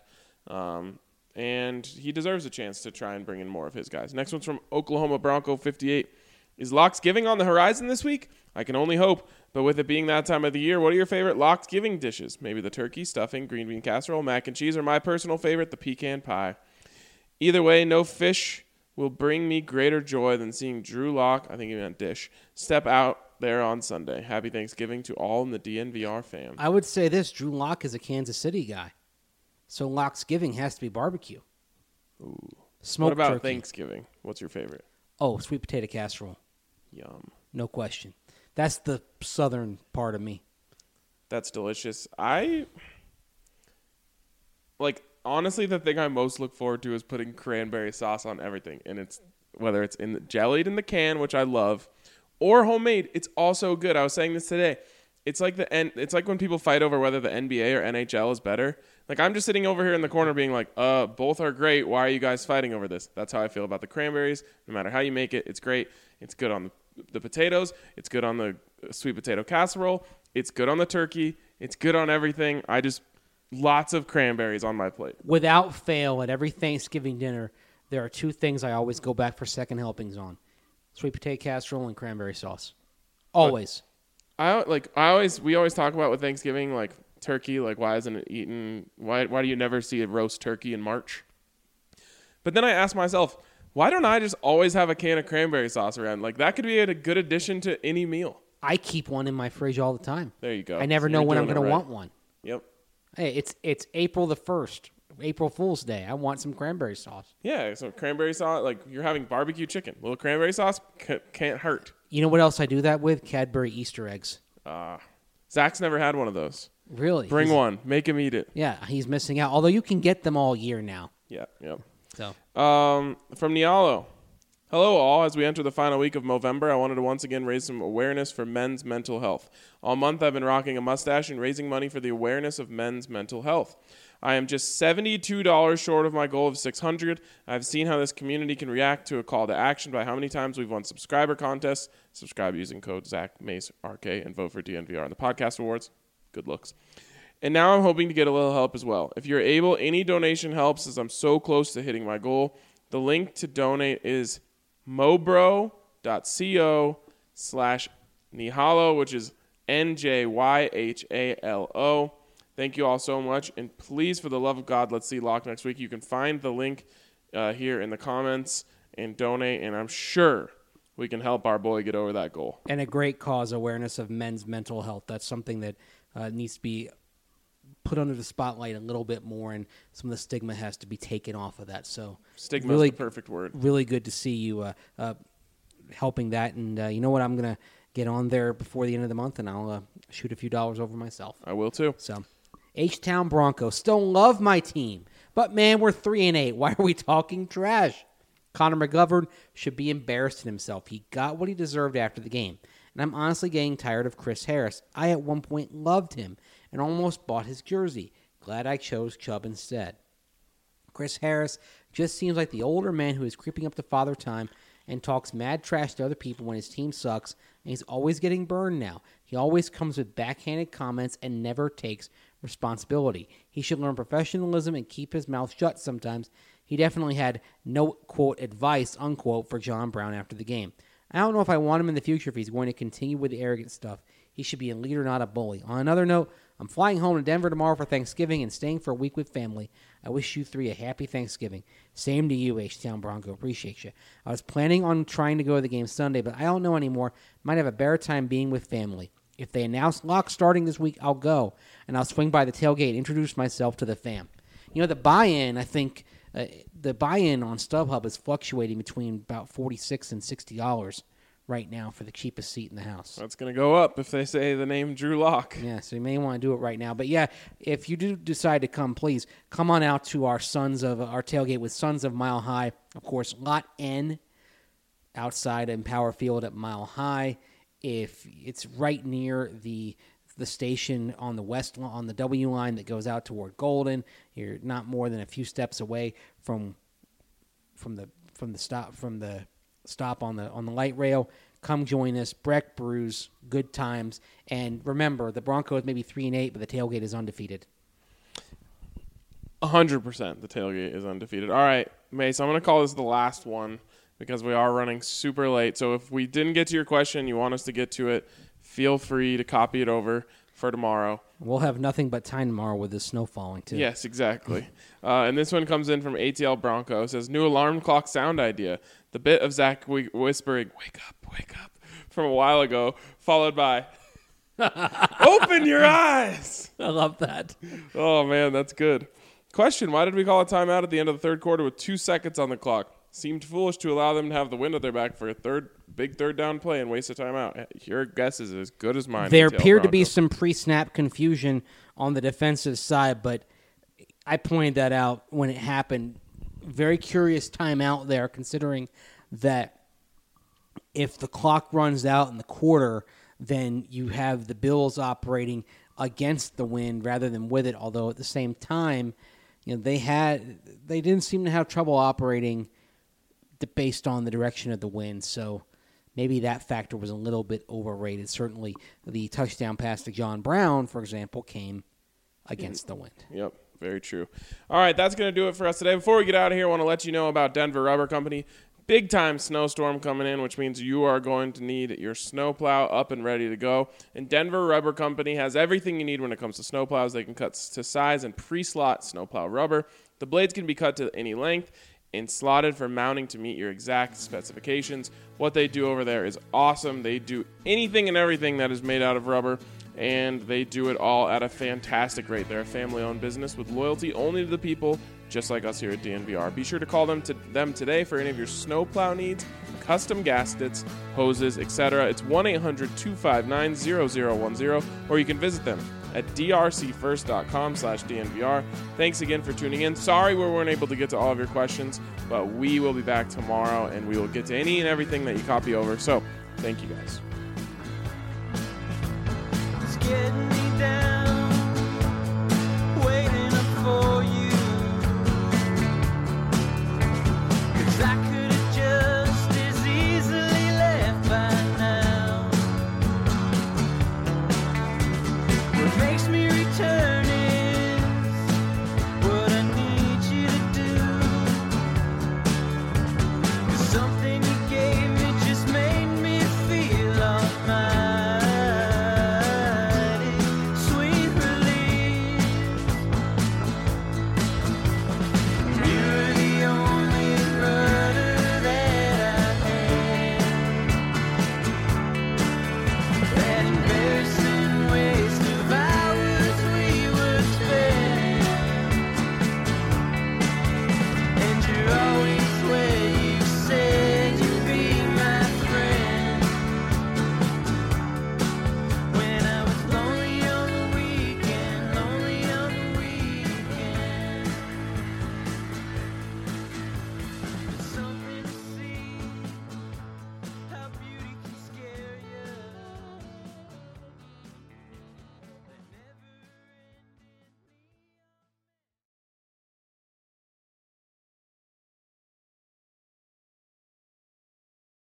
Speaker 1: And he deserves a chance to try and bring in more of his guys. Next one's from Oklahoma Bronco 58. Is Locks Giving on the horizon this week? I can only hope. But with it being that time of the year, what are your favorite Locks Giving dishes? Maybe the turkey, stuffing, green bean casserole, mac and cheese, or my personal favorite, the pecan pie. Either way, no fish will bring me greater joy than seeing Drew Lock, I think he meant Dish, step out there on Sunday. Happy Thanksgiving to all in the DNVR fam.
Speaker 3: I would say this: Drew Lock is a Kansas City guy, so Lock's giving has to be barbecue.
Speaker 1: Ooh.
Speaker 3: Smoked
Speaker 1: What about
Speaker 3: turkey.
Speaker 1: Thanksgiving? What's your favorite?
Speaker 3: Oh, sweet potato casserole,
Speaker 1: Yum.
Speaker 3: no question. That's the southern part of me.
Speaker 1: That's delicious. Honestly, the thing I most look forward to is putting cranberry sauce on everything. And it's whether it's jellied in the can, which I love, or homemade, it's also good. I was saying this today. It's like when people fight over whether the NBA or NHL is better. Like, I'm just sitting over here in the corner being like, both are great. Why are you guys fighting over this? That's how I feel about the cranberries. No matter how you make it, it's great. It's good on the potatoes. It's good on the sweet potato casserole. It's good on the turkey. It's good on everything. Lots of cranberries on my plate.
Speaker 3: Without fail, at every Thanksgiving dinner, there are two things I always go back for second helpings on: sweet potato casserole and cranberry sauce. Always.
Speaker 1: We always talk about with Thanksgiving, like turkey, like why isn't it eaten? Why do you never see a roast turkey in March? But then I ask myself, why don't I just always have a can of cranberry sauce around? Like, that could be a good addition to any meal.
Speaker 3: I keep one in my fridge all the time.
Speaker 1: There you go.
Speaker 3: I never
Speaker 1: So
Speaker 3: know
Speaker 1: you're
Speaker 3: when I'm
Speaker 1: doing
Speaker 3: going
Speaker 1: it
Speaker 3: to
Speaker 1: right.
Speaker 3: want one.
Speaker 1: Yep.
Speaker 3: Hey, it's April the 1st, April Fool's Day. I want some cranberry sauce.
Speaker 1: Yeah, so cranberry sauce, like you're having barbecue chicken. A little cranberry sauce can't hurt.
Speaker 3: You know what else I do that with? Cadbury Easter eggs.
Speaker 1: Zach's never had one of those.
Speaker 3: Really?
Speaker 1: Bring one. Make him eat it.
Speaker 3: Yeah, he's missing out. Although you can get them all year now.
Speaker 1: Yeah, yep.
Speaker 3: So
Speaker 1: From Nialo. Hello, all. As we enter the final week of Movember, I wanted to once again raise some awareness for men's mental health. All month, I've been rocking a mustache and raising money for the awareness of men's mental health. I am just $72 short of my goal of $600. I've seen how this community can react to a call to action by how many times we've won subscriber contests. Subscribe using code ZachMaceRK and vote for DNVR on the podcast awards. Good looks. And now I'm hoping to get a little help as well. If you're able, any donation helps as I'm so close to hitting my goal. The link to donate is mobro.co/Nihalo, which is NJYHALO. Thank you all so much. And please, for the love of God, let's see Lock next week. You can find the link here in the comments and donate, and I'm sure we can help our boy get over that goal.
Speaker 3: and a great cause, awareness of men's mental health. That's something that needs to be put under the spotlight a little bit more, and some of the stigma has to be taken off of that. So
Speaker 1: Stigma
Speaker 3: really,
Speaker 1: is the perfect word.
Speaker 3: really good to see you helping that. And you know what? I'm going to get on there before the end of the month, and I'll shoot a few dollars over myself.
Speaker 1: I will too.
Speaker 3: So, H-Town Broncos still love my team, but man, we're 3-8. Why are we talking trash? Connor McGovern should be embarrassed in himself. He got what he deserved after the game, and I'm honestly getting tired of Chris Harris. I at one point loved him and almost bought his jersey. Glad I chose Chubb instead. Chris Harris just seems like the older man who is creeping up to father time and talks mad trash to other people when his team sucks, and he's always getting burned now. He always comes with backhanded comments and never takes responsibility. He should learn professionalism and keep his mouth shut sometimes. He definitely had no, quote, advice, unquote, for John Brown after the game. I don't know if I want him in the future if he's going to continue with the arrogant stuff. He should be a leader, not a bully. On another note, I'm flying home to Denver tomorrow for Thanksgiving and staying for a week with family. I wish you three a happy Thanksgiving. Same to you, H-Town Bronco. Appreciate you. I was planning on trying to go to the game Sunday, but I don't know anymore. Might have a better time being with family. If they announce Lock starting this week, I'll go, and I'll swing by the tailgate and introduce myself to the fam. You know, the buy-in, I think, the buy-in on StubHub is fluctuating between about $46 and $60 right now for the cheapest seat in the house.
Speaker 1: That's going to go up if they say the name Drew Lock.
Speaker 3: Yeah, so you may want to do it right now. But yeah, if you do decide to come, please come on out to our tailgate with Sons of Mile High. Of course, Lot N outside in Power Field at Mile High. If it's right near the station on the on the W line that goes out toward Golden, you're not more than a few steps away from the stop on the light rail. Come join us. Breck Brews, good times. And remember, the Broncos may be 3-8, but the tailgate is undefeated.
Speaker 1: 100% the tailgate is undefeated. All right, Mace, I'm going to call this the last one because we are running super late. So if we didn't get to your question, you want us to get to it, feel free to copy it over for tomorrow.
Speaker 3: We'll have nothing but time tomorrow with the snow falling, too.
Speaker 1: Yes, exactly. And this one comes in from ATL Bronco. It says, new alarm clock sound idea. The bit of Zach whispering, wake up, from a while ago, followed by, open your eyes.
Speaker 3: I love that.
Speaker 1: Oh, man, that's good. Question, why did we call a timeout at the end of the third quarter with 2 seconds on the clock? Seemed foolish to allow them to have the wind at their back for a big third down play and waste a timeout. Your guess is as good as mine.
Speaker 3: There
Speaker 1: ATL
Speaker 3: appeared to be
Speaker 1: Bronco.
Speaker 3: some pre-snap confusion on the defensive side, but I pointed that out when it happened. Very curious timeout there, considering that if the clock runs out in the quarter, then you have the Bills operating against the wind rather than with it, although at the same time, they didn't seem to have trouble operating based on the direction of the wind, so maybe that factor was a little bit overrated. Certainly the touchdown pass to John Brown, for example, came against the wind.
Speaker 1: Yep, very true. All right, that's going to do it for us today. Before we get out of here, I want to let you know about Denver Rubber Company. Big-time snowstorm coming in, which means you are going to need your snowplow up and ready to go. And Denver Rubber Company has everything you need when it comes to snowplows. They can cut to size and pre-slot snowplow rubber. The blades can be cut to any length and slotted for mounting to meet your exact specifications. What they do over there is awesome. They do anything and everything that is made out of rubber, and they do it all at a fantastic rate. They're a family-owned business with loyalty only to the people, just like us here at DNVR. Be sure to call them today for any of your snowplow needs, custom gaskets, hoses, etc. It's 1-800-259-0010, or you can visit them at drcfirst.com/DNVR. Thanks again for tuning in. Sorry we weren't able to get to all of your questions, but we will be back tomorrow, and we will get to any and everything that you copy over. So, thank you guys.
Speaker 2: It's getting